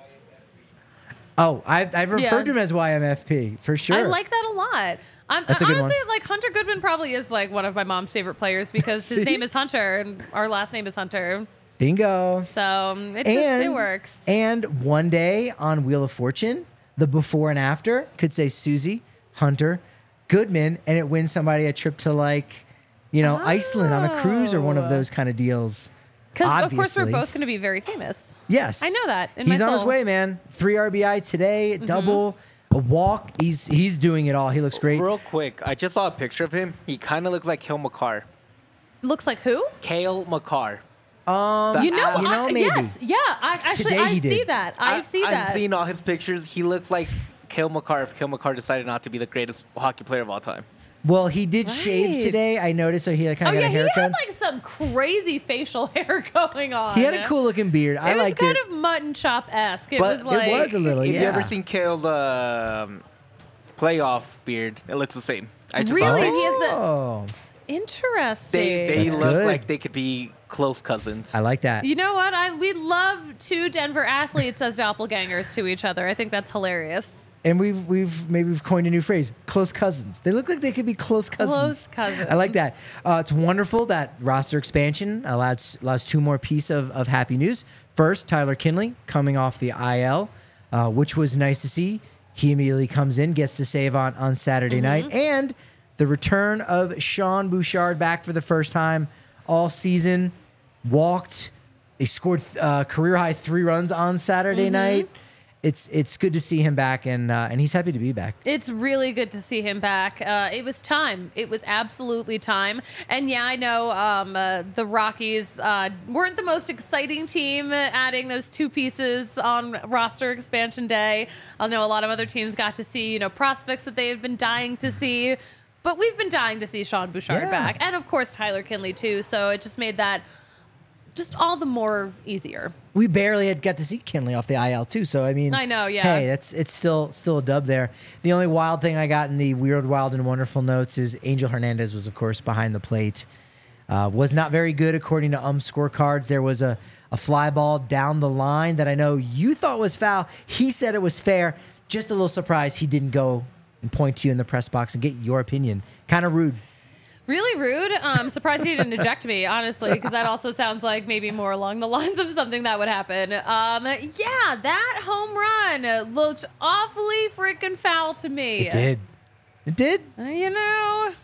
Oh, I've, I've referred Yeah. to him as Y M F P for sure. I like that a lot. I'm, That's a good honestly, one. like Hunter Goodman probably is like one of my mom's favorite players because his See? name is Hunter and our last name is Hunter. Bingo. So um, it just it works. And one day on Wheel of Fortune, the before and after could say Susie, Hunter, Goodman, and it wins somebody a trip to like, you know, Iceland on a cruise or one of Oh. those kind of deals. Because of course we're Obviously. both going to be very famous. Yes. I know that in he's my on his soul. Mm-hmm. way, man. Three R B I today, double, a walk. He's he's doing it all. He looks great. Real quick, I just saw a picture of him. He kind of looks like Kale McCarr. Looks like who? Kale McCarr. Um, The You know, Al- you know, I, maybe. yes, yeah. I, actually, Today I he see did. that. I, see I'm that. seeing all his pictures. He looks like Kale McCarr if Kale McCarr decided not to be the greatest hockey player of all time. Well, he did shave Right. today. I noticed. So he kind Oh of got yeah, a he haircut. had like some crazy facial hair going on. He had a cool looking beard. I It was liked kind it. of mutton chop esque. It But was like it was a little. If yeah. you ever seen Kale's um, playoff beard, it looks the same. I just saw Really? pictures. He has the- Oh, interesting. They they That's look good. like they could be close cousins. I like that. You know what? I we love two Denver athletes as doppelgangers to each other. I think that's hilarious. And we've we've maybe we've coined a new phrase: close cousins. They look like they could be close cousins. Close cousins. I like that. Uh, it's wonderful that roster expansion allows allows two more piece of, of happy news. First, Tyler Kinley coming off the I L, uh, which was nice to see. He immediately comes in, gets to save on on Saturday Mm-hmm. night, and the return of Sean Bouchard back for the first time all season. Walked. He scored uh, career high three runs on Saturday Mm-hmm. night. It's it's good to see him back, and uh, and he's happy to be back. It's really good to see him back. Uh, it was time. It was absolutely time. And yeah, I know um, uh, the Rockies uh, weren't the most exciting team uh, adding those two pieces on roster expansion day. I know a lot of other teams got to see, you know, prospects that they have been dying to see. But we've been dying to see Sean Bouchard Yeah. back. And of course, Tyler Kinley too. So it just made that just all the more easier. We barely had got to see Kinley off the I L too, so I mean, I know, yeah. Hey, that's it's still still a dub there. The only wild thing I got in the weird, wild, and wonderful notes is Angel Hernandez was, of course, behind the plate. Uh, was not very good according to um scorecards. There was a a fly ball down the line that I know you thought was foul. He said it was fair. Just a little surprised he didn't go and point to you in the press box and get your opinion. Kind of rude. Really rude. I'm surprised he didn't eject me, honestly, because that also sounds like maybe more along the lines of something that would happen. Um, yeah, that home run looked awfully freaking foul to me. It did. It did. Uh, You know.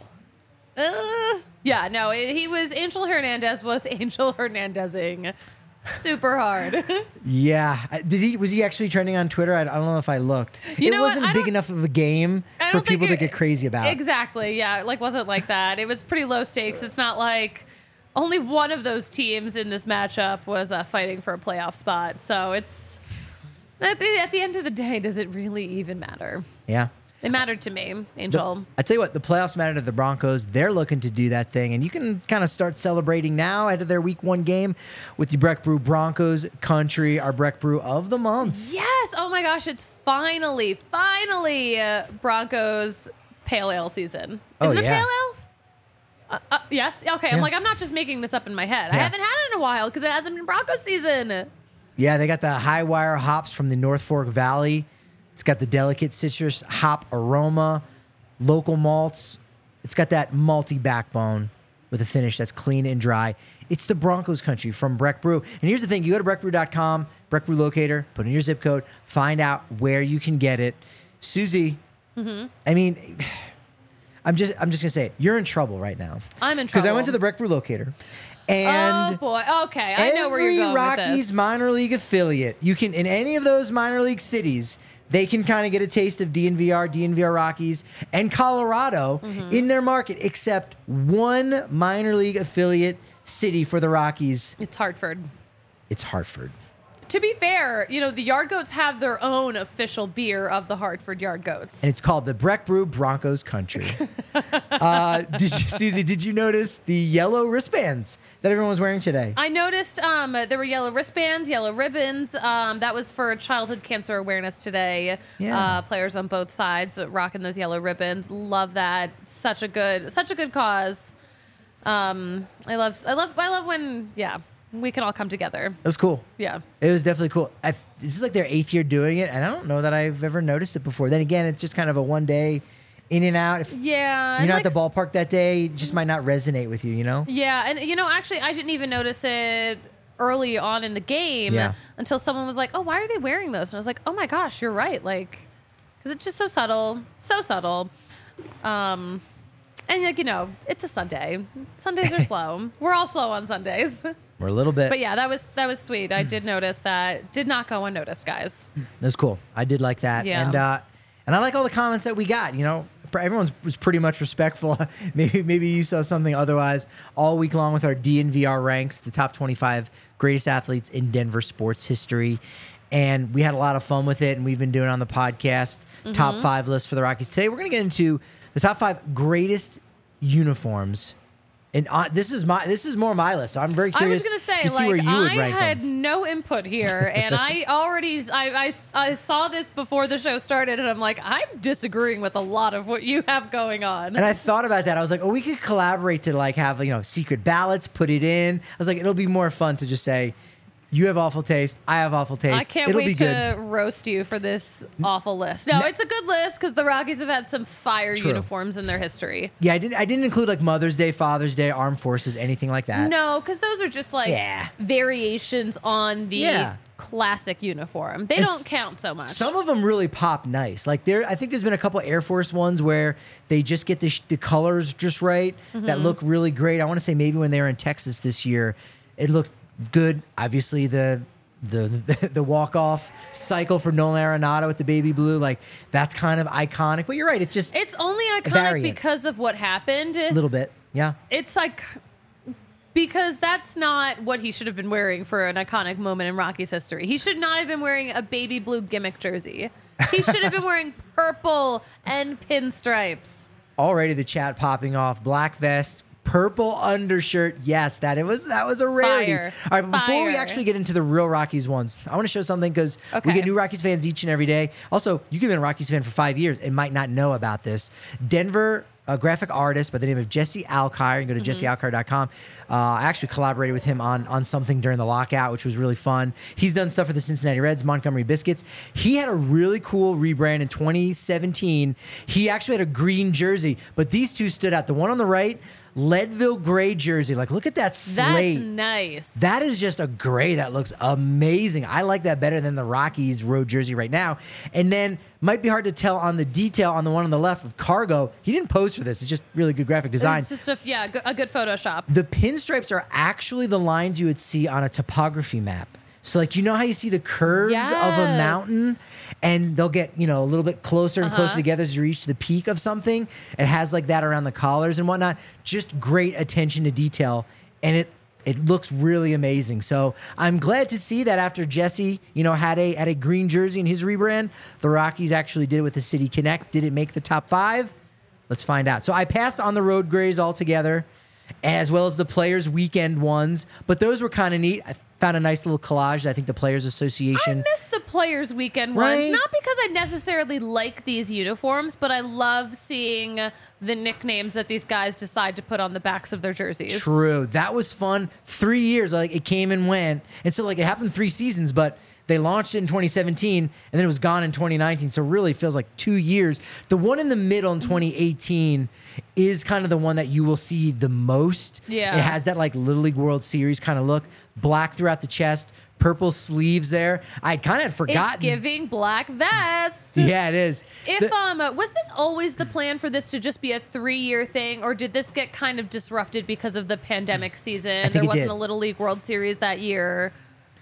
Uh, yeah, no, it, he was Angel Hernandez was Angel Hernandezing super hard. Yeah. I- Did he? Was he actually trending on Twitter? I, I don't know if I looked. You it know what? wasn't I big don't- enough of a game I for don't think people to it- get crazy about. Exactly. Yeah, it, like wasn't like that. It was pretty low stakes. It's not like only one of those teams in this matchup was uh, fighting for a playoff spot. So it's at the, at the end of the day, does it really even matter? Yeah. It mattered to me, Angel. I tell you what, the playoffs matter to the Broncos. They're looking to do that thing, and you can kind of start celebrating now ahead of their Week One game with the Breck Brew Broncos Country, our Breck Brew of the month. Yes. Oh my gosh, it's finally, finally uh, Broncos Pale Ale season. Is Oh, it a yeah. Pale Ale? Uh, uh, yes. Okay. Yeah. I'm like, I'm not just making this up in my head. I Yeah. haven't had it in a while because it hasn't been Broncos season. Yeah, they got the high wire hops from the North Fork Valley. It's got the delicate citrus hop aroma, local malts. It's got that malty backbone with a finish that's clean and dry. It's the Broncos country from Breck Brew. And here's the thing. You go to breck brew dot com, Breck Brew Locator, put in your zip code, find out where you can get it. Susie, Mm-hmm. I mean, I'm just I'm just going to say it. You're in trouble right now. I'm in Because trouble. I went to the Breck Brew Locator. And oh boy. Okay, I know where you're going every Rockies with this. minor league affiliate, you can in any of those minor league cities, they can kind of get a taste of D N V R, D N V R Rockies, and Colorado Mm-hmm. in their market, except one minor league affiliate city for the Rockies. It's Hartford. It's Hartford. To be fair, you know, the Yard Goats have their own official beer of the Hartford Yard Goats. And it's called the Breck Brew Broncos Country. uh, did you, Susie, did you notice the yellow wristbands that everyone was wearing today? I noticed um, there were yellow wristbands, yellow ribbons. Um, that was for childhood cancer awareness today. Yeah. Uh, players on both sides rocking those yellow ribbons. Love that. Such a good, such a good cause. Um, I love, I love, I love when, yeah, we can all come together. It was cool. Yeah. It was definitely cool. I, this is like their eighth year doing it, and I don't know that I've ever noticed it before. Then again, it's just kind of a one day in and out. If Yeah. you're and not like at the ballpark that day, it just might not resonate with you, you know? Yeah, and you know, actually, I didn't even notice it early on in the game Yeah. until someone was like, "Oh, why are they wearing those?" And I was like, "Oh my gosh, you're right!" Like, because it's just so subtle, so subtle. Um, and like you know, it's a Sunday. Sundays are slow. We're all slow on Sundays. We're a little bit. But yeah, that was that was sweet. I did notice that. Did not go unnoticed, guys. That was cool. I did like that. Yeah. And uh, and I like all the comments that we got. You know, everyone was pretty much respectful. maybe maybe you saw something otherwise all week long with our D N V R ranks, the top twenty-five greatest athletes in Denver sports history. And we had a lot of fun with it, and we've been doing it on the podcast, Mm-hmm. top five list for the Rockies. Today, we're going to get into the top five greatest uniforms. And uh, this is my this is more my list. So I'm very I curious was gonna say, to see where like, you would I rank had them. no input here, and I already, I, I, I saw this before the show started, and I'm like, I'm disagreeing with a lot of what you have going on. And I thought about that. I was like, oh, we could collaborate to like have, you know, secret ballots, put it in. I was like, it'll be more fun to just say, you have awful taste, I have awful taste. I can't it'll wait be to good. roast you for this awful list. No, No. it's a good list because the Rockies have had some fire True. uniforms in their history. Yeah, I didn't I didn't include like Mother's Day, Father's Day, Armed Forces, anything like that. No, because those are just like Yeah. variations on the Yeah. classic uniform. They And don't s- count so much. Some of them really pop nice. Like there, I think there's been a couple Air Force ones where they just get the, sh- the colors just right Mm-hmm. that look really great. I want to say maybe when they were in Texas this year, it looked good. Obviously the the the, the walk off cycle for Nolan Arenado with the baby blue, like that's kind of iconic. But you're right, it's just it's only iconic variant. because of what happened. a little bit, yeah. It's like because that's not what he should have been wearing for an iconic moment in Rocky's history. He should not have been wearing a baby blue gimmick jersey. He should have been wearing purple and pinstripes. Already the chat popping off. Black vest, purple undershirt. Yes, that it was that was a rarity. Fire. All right, but before we Fire. actually get into the real Rockies ones, I want to show something because we Okay. get new Rockies fans each and every day. Also, you can be a Rockies fan for five years and might not know about this. Denver. A graphic artist by the name of Jesse Alkire. You can go to jesse alkire dot com. Uh, I actually collaborated with him on, on something during the lockout, which was really fun. He's done stuff for the Cincinnati Reds, Montgomery Biscuits. He had a really cool rebrand in twenty seventeen. He actually had a green jersey, but these two stood out. The one on the right, Leadville gray jersey. Like, look at that slate. That's nice. That is just a gray that looks amazing. I like that better than the Rockies road jersey right now. And then might be hard to tell on the detail on the one on the left of Cargo. He didn't pose for this. It's just really good graphic design. It's just a, yeah, go- a good Photoshop. The pinstripes are actually the lines you would see on a topography map. So like, you know how you see the curves of a Yes. mountain and they'll get, you know, a little bit closer and closer Uh-huh. together as you reach the peak of something. It has like that around the collars and whatnot. Just great attention to detail. And it it looks really amazing. So I'm glad to see that after Jesse, you know, had a had a green jersey in his rebrand, the Rockies actually did it with the City Connect. Did it make the top five? Let's find out. So I passed on the road grays altogether, as well as the Players Weekend ones, but those were kind of neat. I found a nice little collage that I think the Players I Association. miss the Players Weekend Right? ones, not because I necessarily like these uniforms, but I love seeing the nicknames that these guys decide to put on the backs of their jerseys. True. That was fun. Three years, like it came and went. And so like it happened three seasons, but They launched it in twenty seventeen, and then it was gone in twenty nineteen. So really feels like two years. The one in the middle in twenty eighteen is kind of the one that you will see the most. Yeah. It has that like Little League World Series kind of look. Black throughout the chest, purple sleeves there. I kind of had forgotten. It's giving black vest. Yeah, it is. If The- um was this always the plan for this to just be a three-year thing, or did this get kind of disrupted because of the pandemic season? think There it wasn't did. a Little League World Series that year.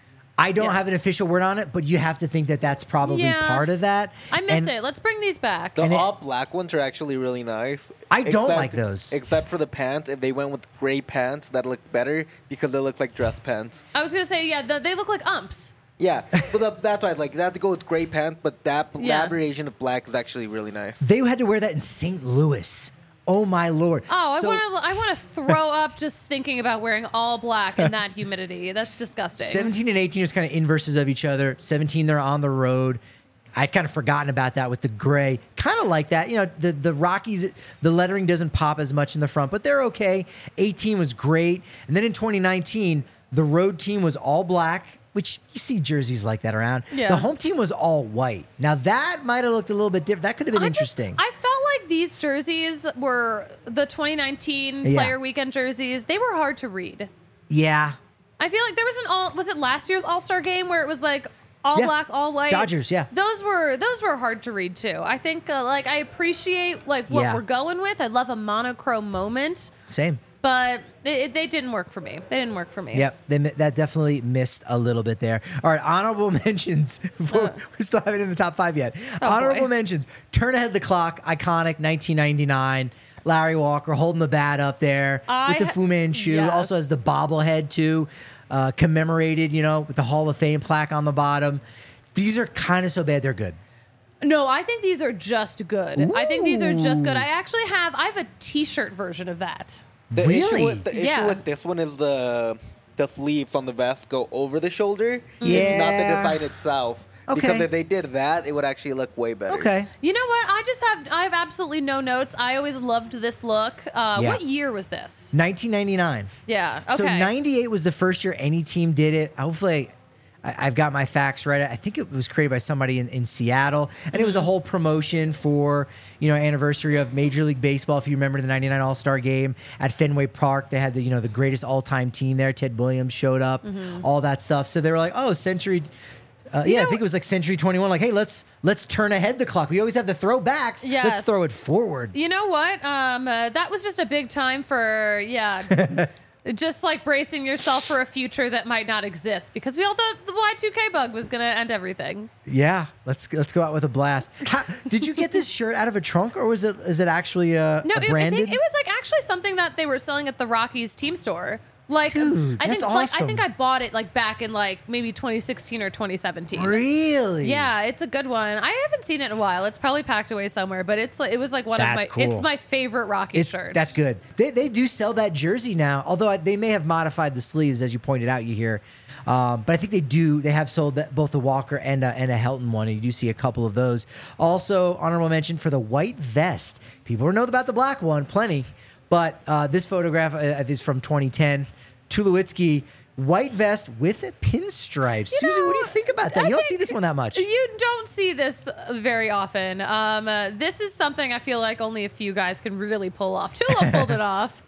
I don't Yeah. have an official word on it, but you have to think that that's probably Yeah. part of that. I miss And it. Let's bring these back. The And it- all black ones are actually really nice. I don't like those. Except for the pants. If they went with gray pants, that look better because they look like dress pants. I was gonna say, yeah, the, they look like umps. Yeah, but the, that's why like they have to go with gray pants. But that Yeah. that variation of black is actually really nice. They had to wear that in Saint Louis. Oh my lord! Oh, So- I want to I want to throw up just thinking about wearing all black in that humidity. That's disgusting. seventeen and eighteen is kind of inverses of each other. seventeen, they're on the road. I'd kind of forgotten about that with the gray. Kind of like that. You know, the, the Rockies, the lettering doesn't pop as much in the front, but they're okay. eighteen was great. And then in twenty nineteen, the road team was all black, which you see jerseys like that around. Yeah. The home team was all white. Now, that might have looked a little bit different. That could have been I just- interesting. I felt like these jerseys were the twenty nineteen Yeah. player weekend jerseys. They were hard to read. yeah. I feel like there was an all was it last year's All-Star game where it was like all Yeah. black, all white. Dodgers, yeah. Those were those were hard to read too. I think uh, like I appreciate like what Yeah. we're going with. I love a monochrome moment, Same. but it, it, they didn't work for me. They didn't work for me. Yep, they, mi- that definitely missed a little bit there. All right, honorable mentions. Before, we still haven't in the top five yet. Oh, honorable boy. mentions. Turn ahead the clock. Iconic nineteen ninety-nine. Larry Walker holding the bat up there I with the ha- Fu Manchu. yes. Also has the bobblehead too, uh, commemorated. You know, with the Hall of Fame plaque on the bottom. These are kind of so bad they're good. No, I think these are just good. I think these are just good. Ooh. I actually have I have a T-shirt version of that. The Really? issue with the Yeah. issue with this one is the the sleeves on the vest go over the shoulder. Mm-hmm. It's not the Yeah. design itself. Okay. Because if they did that, it would actually look way better. Okay. You know what? I just have I have absolutely no notes. I always loved this look. Uh, Yeah. What year was this? nineteen ninety-nine. Yeah. Okay. So ninety-eight was the first year any team did it. Hopefully, I, I've got my facts right. I think it was created by somebody in, in Seattle, and it was a whole promotion for you know anniversary of Major League Baseball. If you remember the ninety-nine All Star Game at Fenway Park, they had the you know the greatest all time team there. Ted Williams showed up, all that stuff. So they were like, oh, Century. Uh, yeah, I know- think it was like Century twenty-one. Like, hey, let's let's turn ahead the clock. We always have the throwbacks. Let's Yes. throw it forward. You know what? Um, uh, that was just a big time for yeah. Just like bracing yourself for a future that might not exist because we all thought the Y two K bug was going to end everything. Yeah, let's let's go out with a blast. How, did you get this shirt out of a trunk, or was it is it actually a, No, a it, I branded? think it was like actually something that they were selling at the Rockies team store. Like, Dude, I that's think like I awesome. think I bought it like back in like maybe twenty sixteen or twenty seventeen. Really? Yeah, it's a good one. I haven't seen it in a while. It's probably packed away somewhere, but it's like it was like one That's of my it's cool. my favorite Rocky It's, shirt. that's good. They, they do sell that jersey now, although I, they may have modified the sleeves, as you pointed out. You hear, um, but I think they do. They have sold that, both the Walker and a, and a Helton one, and you do see a couple of those. Also, honorable mention for the white vest. People know about the black one, plenty, but uh, this photograph uh, is from twenty ten. Tulowitzki, white vest with pinstripes. You Susie, what do you know, think about that? I You don't think see this one that much. You don't see this uh, very often. Um, uh, this is something I feel like only a few guys can really pull off. Tulo pulled it off.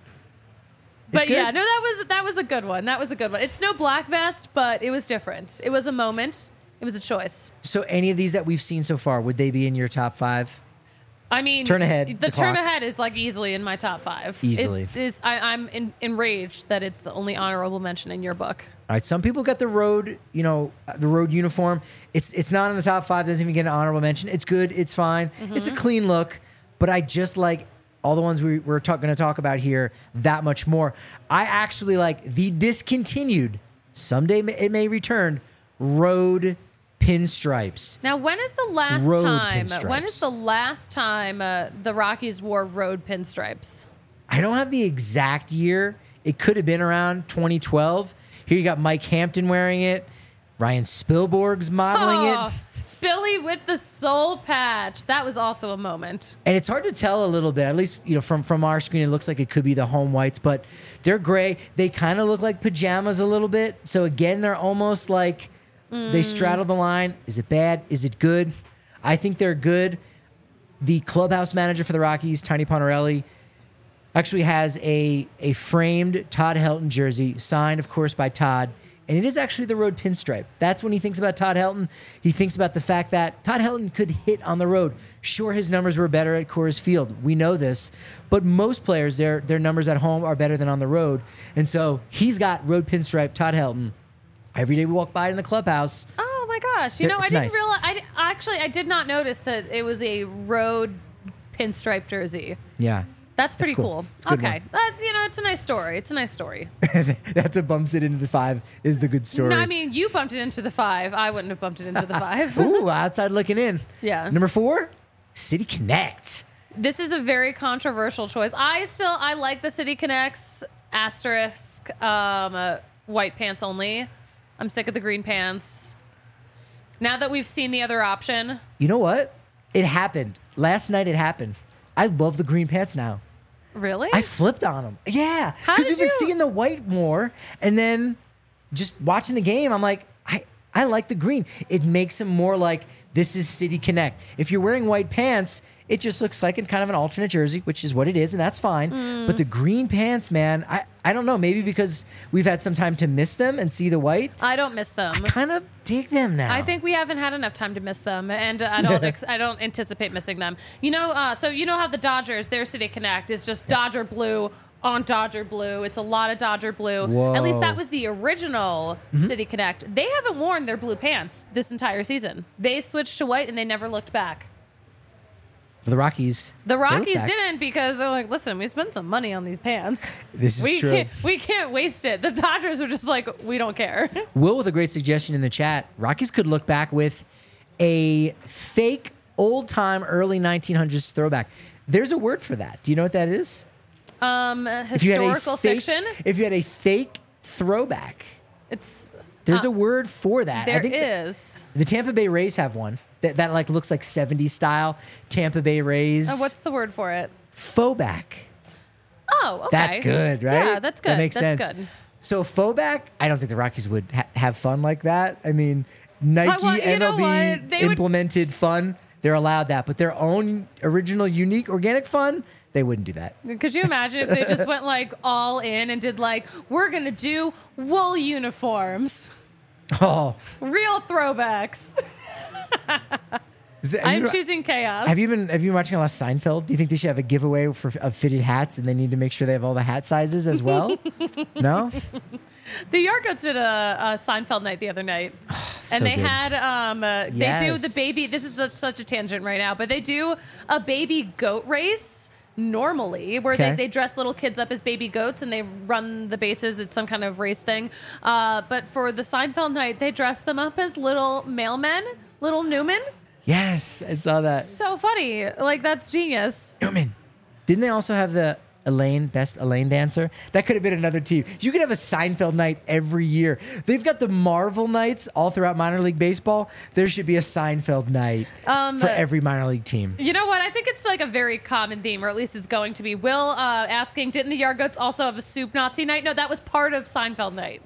But good. yeah, no, that was that was a good one. That was a good one. It's no black vest, but it was different. It was a moment. It was a choice. So, any of these that we've seen so far, would they be in your top five? I mean, Turn ahead, The, the turn clock. ahead is like easily in my top five. Easily. It is. I, I'm in, enraged that it's only honorable mention in your book. All right, some people got the road, you know, the road uniform. It's it's not in the top five. Doesn't even get an honorable mention. It's good. It's fine. It's a clean look. But I just like all the ones we, we're talk, going to talk about here that much more. I actually like the discontinued. Someday it may return. Road pinstripes. Now, when is the last Road time? pinstripes. When is the last time uh, the Rockies wore road pinstripes? I don't have the exact year. It could have been around twenty twelve. Here you got Mike Hampton wearing it. Ryan Spielborg's modeling it. Oh, Spilly with the soul patch. That was also a moment. And it's hard to tell a little bit, at least you know from from our screen. It looks like it could be the home whites, but they're gray. They kind of look like pajamas a little bit. So again, they're almost like They straddle the line. Is it bad? Is it good? I think they're good. The clubhouse manager for the Rockies, Tiny Ponarelli, actually has a, a framed Todd Helton jersey, signed, of course, by Todd. And it is actually the road pinstripe. That's when he thinks about Todd Helton. He thinks about the fact that Todd Helton could hit on the road. Sure, his numbers were better at Coors Field. We know this. But most players, their, their numbers at home are better than on the road. And so he's got road pinstripe Todd Helton. Every day we walk by in the clubhouse. Oh my gosh! You They're- know, I it's didn't nice. realize. I di- actually I did not notice that it was a road pinstripe jersey. Yeah. That's pretty cool. cool. It's a good Okay, that, you know, it's a nice story. It's a nice story. That's what bumps it into the five is the good story. No, I mean, you bumped it into the five. I wouldn't have bumped it into the five. Ooh, outside looking in. Yeah. Number four, City Connect. This is a very controversial choice. I still I like the City Connects asterisk um, uh, white pants only. I'm sick of the green pants. Now that we've seen the other option, You know what? It happened. Last night it happened. I love the green pants now. really? I flipped on them. Yeah. How Because did we've been you- seeing the white more. And then just watching the game, I'm like, I, I like the green. It makes them more like this is City Connect. If you're wearing white pants, it just looks like in kind of an alternate jersey, which is what it is, and that's fine. Mm. But the green pants, man, I, I don't know. Maybe because we've had some time to miss them and see the white. I don't miss them. I kind of dig them now. I think we haven't had enough time to miss them, and I don't. Ex- I don't anticipate missing them. You know, uh, so you know how the Dodgers, their City Connect is just Dodger blue on Dodger blue. It's a lot of Dodger blue. At least that Whoa. was the original City Connect. They haven't worn their blue pants this entire season. They switched to white, and they never looked back. the Rockies. The they look Rockies back. didn't because they're like, listen, we spent some money on these pants. This is we true. Can't, we can't waste it. The Dodgers were just like, we don't care. Will with a great suggestion in the chat. Rockies could look back with a fake old time early nineteen hundreds throwback. There's a word for that. Do you know what that is? Um, If you had a historical fake- fiction. If you had a fake throwback, It's there's Uh, a word for that. there I think the- is. The Tampa Bay Rays have one that, that like looks like seventies style Tampa Bay Rays. Uh, what's the word for it? Fauxback? Oh, okay. That's good, right? Yeah, that's good. That makes that's sense. good. So fauxback, I don't think the Rockies would ha- have fun like that. I mean, Nike, well, you know M L B what? They would- implemented fun. They're allowed that, but their own original, unique, organic fun, they wouldn't do that. Could you imagine if they just went like all in and did like, we're going to do wool uniforms, Oh, real throwbacks. is it- have I'm you- choosing chaos. Have you been have you been watching a lot of Seinfeld? Do you think they should have a giveaway for of fitted hats, and they need to make sure they have all the hat sizes as well? No, The Yargoats did a, a Seinfeld night the other night. so and they good. had, um, uh, they do the Yes. baby, this is a, such a tangent right now, but they do a baby goat race normally where Okay. they, they dress little kids up as baby goats and they run the bases. It's some kind of race thing. Uh, but for the Seinfeld night, they dress them up as little mailmen, little Newman. Yes, I saw that. So funny. Like, that's genius. Newman. Didn't they also have the Elaine, best Elaine dancer? That could have been another team. You could have a Seinfeld night every year. They've got the Marvel nights all throughout minor league baseball. There should be a Seinfeld night Um, for every minor league team. You know what? I think it's like a very common theme, or at least it's going to be. Will uh, asking, didn't the Yargoats also have a soup Nazi night? No, that was part of Seinfeld night.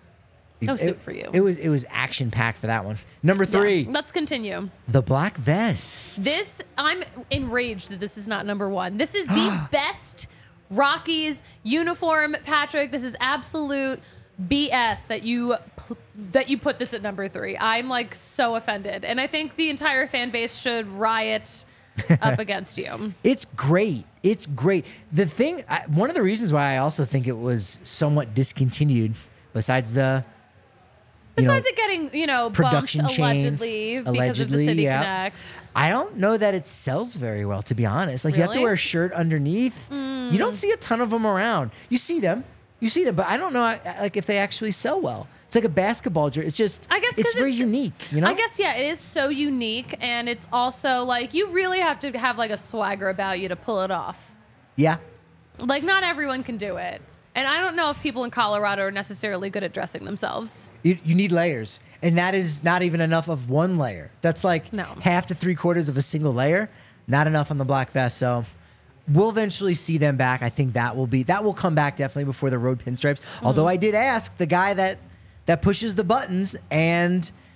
No It- soup for you. It was it was action packed for that one. Number three, Yeah, let's continue. the black vest. This, I'm enraged that this is not number one. This is the best Rockies uniform, Patrick. This is absolute B S that you that you put this at number three. I'm like so offended, and I think the entire fan base should riot up against you. It's great. It's great. The thing, I, one of the reasons why I also think it was somewhat discontinued, besides the you know, Besides it getting, you know, bumped production change, allegedly because of the allegedly, City yeah. Connect. I don't know that it sells very well, to be honest. Like you have to Really? wear a shirt underneath. You don't see a ton of them around. You see them, you see them, but I don't know I- like if they actually sell well. It's like a basketball jersey. It's just, I guess 'cause it's very it's- unique. You know, I guess, yeah, it is so unique, and it's also like you really have to have like a swagger about you to pull it off. yeah. Like, not everyone can do it. And I don't know if people in Colorado are necessarily good at dressing themselves. You, you need layers, and that is not even enough of one layer. That's like No. half to three quarters of a single layer. Not enough on the black vest. So we'll eventually see them back. I think that will be that will come back definitely before the road pinstripes. Although I did ask the guy that that pushes the buttons and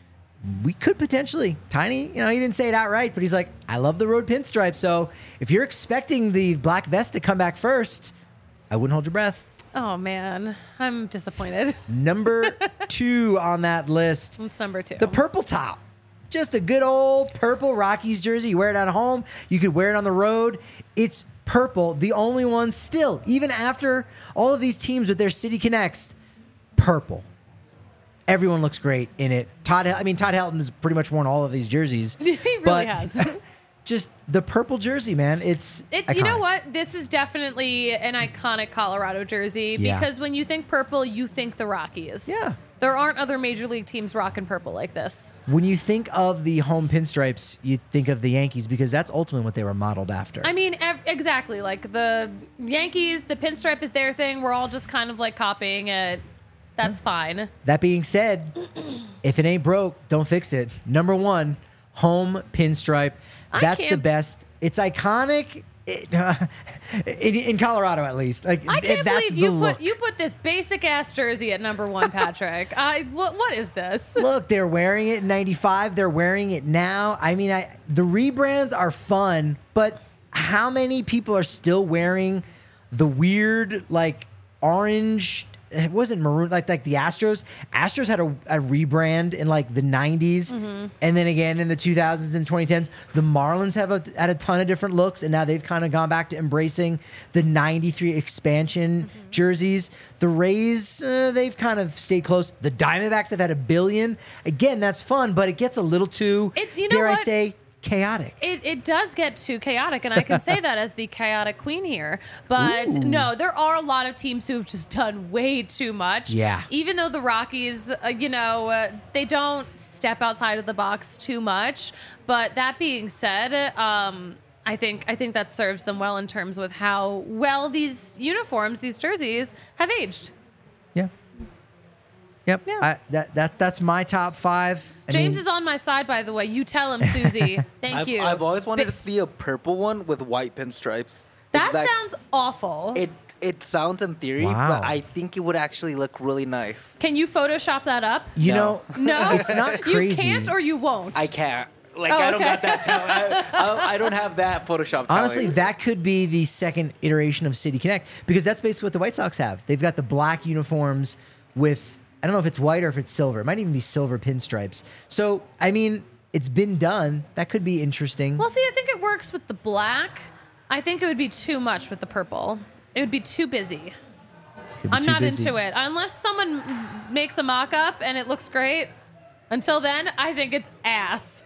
we could potentially, Tiny, you know, he didn't say it outright, but he's like, I love the road pinstripe. So if you're expecting the black vest to come back first, I wouldn't hold your breath. Oh, man. I'm disappointed. Number two on that list, That's number two. the purple top. Just a good old purple Rockies jersey. You wear it at home. You could wear it on the road. It's purple. The only one still, even after all of these teams with their City Connects, purple. Everyone looks great in it. Todd, I mean, Todd Helton has pretty much worn all of these jerseys. He really but has. Just the purple jersey, man. It's It, you know iconic. what? This is definitely an iconic Colorado jersey Yeah. because when you think purple, you think the Rockies. Yeah. There aren't other major league teams rocking purple like this. When you think of the home pinstripes, you think of the Yankees because that's ultimately what they were modeled after. I mean, ev- exactly. Like the Yankees, the pinstripe is their thing. We're all just kind of like copying it. That's fine. That being said, if it ain't broke, don't fix it. Number one, home pinstripe. I That's the can't- best. It's iconic. It, uh, in, in Colorado, at least. Like I can't that's believe the you look. put you put this basic ass jersey at number one, Patrick. I what what is this? Look, they're wearing it in ninety-five. They're wearing it now. I mean, I the rebrands are fun, but how many people are still wearing the weird, like, orange? It wasn't maroon, like like the Astros. Astros had a, a rebrand in like the nineties, Mm-hmm. and then again in the two thousands and twenty tens. The Marlins have a, had a ton of different looks, and now they've kind of gone back to embracing the ninety-three expansion Mm-hmm. jerseys. The Rays, uh, they've kind of stayed close. The Diamondbacks have had a billion. Again, that's fun, but it gets a little too, It's- you know dare I what? say, chaotic. It, it does get too chaotic, and I can say that as the chaotic queen here. But no, there are a lot of teams who have just done way too much. Yeah. Even though the Rockies, uh, you know, uh, they don't step outside of the box too much. But that being said, um, I think I think that serves them well in terms with how well these uniforms, these jerseys, have aged. Yeah. Yep. Yeah. I, that that that's my top five. I James mean, is on my side, by the way. You tell him, Susie. Thank I've, you. I've always wanted But to see a purple one with white pinstripes. that Exact- sounds awful. It it sounds in theory, Wow. but I think it would actually look really nice. Can you Photoshop that up? You No. know, No, it's not crazy. You can't or you won't. I can't. Like Oh, I don't okay. got that talent. I, I, I don't have that Photoshop talent. Honestly, that could be the second iteration of City Connect because that's basically what the White Sox have. They've got the black uniforms with, I don't know if it's white or if it's silver. It might even be silver pinstripes. So, I mean, it's been done. That could be interesting. Well, see, I think it works with the black. I think it would be too much with the purple. It would be too busy. Could be I'm too not busy. into it. Unless someone makes a mock up and it looks great. Until then, I think it's ass.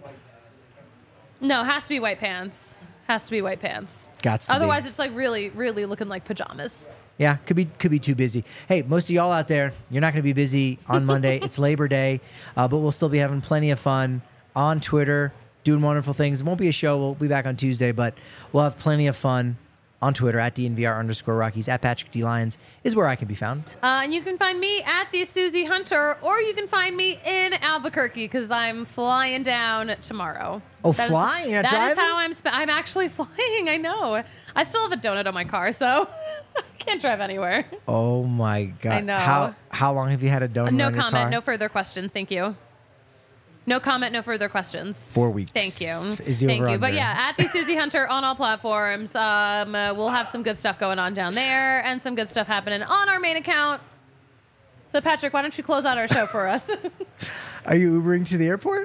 No, has to be white pants. Has to be white pants. Gots to be. Otherwise, it's like really, really looking like pajamas. Yeah, could be could be too busy. Hey, most of y'all out there, you're not going to be busy on Monday. It's Labor Day, uh, but we'll still be having plenty of fun on Twitter, doing wonderful things. It won't be a show. We'll be back on Tuesday, but we'll have plenty of fun on Twitter at D N V R underscore Rockies. At Patrick D. Lyons is where I can be found. Uh, and you can find me at the Susie Hunter, or you can find me in Albuquerque because I'm flying down tomorrow. Oh, That is- flying? You're not That is driving? how I'm. Sp- I'm actually flying. I know. I still have a donut on my car, so I can't drive anywhere. Oh my God! I know. How how long have you had a donut? No on your comment. car? No further questions. Thank you. No comment. No further questions. Four weeks. Thank you. Is the Thank you. over-under. But yeah, at the Susie Hunter on all platforms. Um, uh, we'll have some good stuff going on down there and some good stuff happening on our main account. So Patrick, why don't you close out our show for us? Are you Ubering to the airport?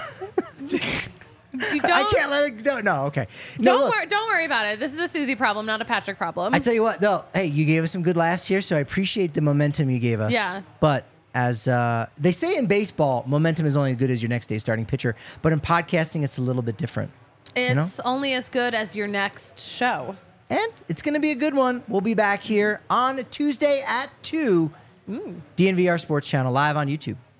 You I don't, can't let it go. No, okay. No, don't look, worry. Don't worry about it. This is a Susie problem, not a Patrick problem. I tell you what, though. Hey, you gave us some good laughs here, so I appreciate the momentum you gave us. Yeah. But as uh, they say in baseball, momentum is only as good as your next day's starting pitcher. But in podcasting, it's a little bit different. it's know? only as good as your next show. And it's going to be a good one. We'll be back here on Tuesday at two. D N V R Sports Channel live on YouTube.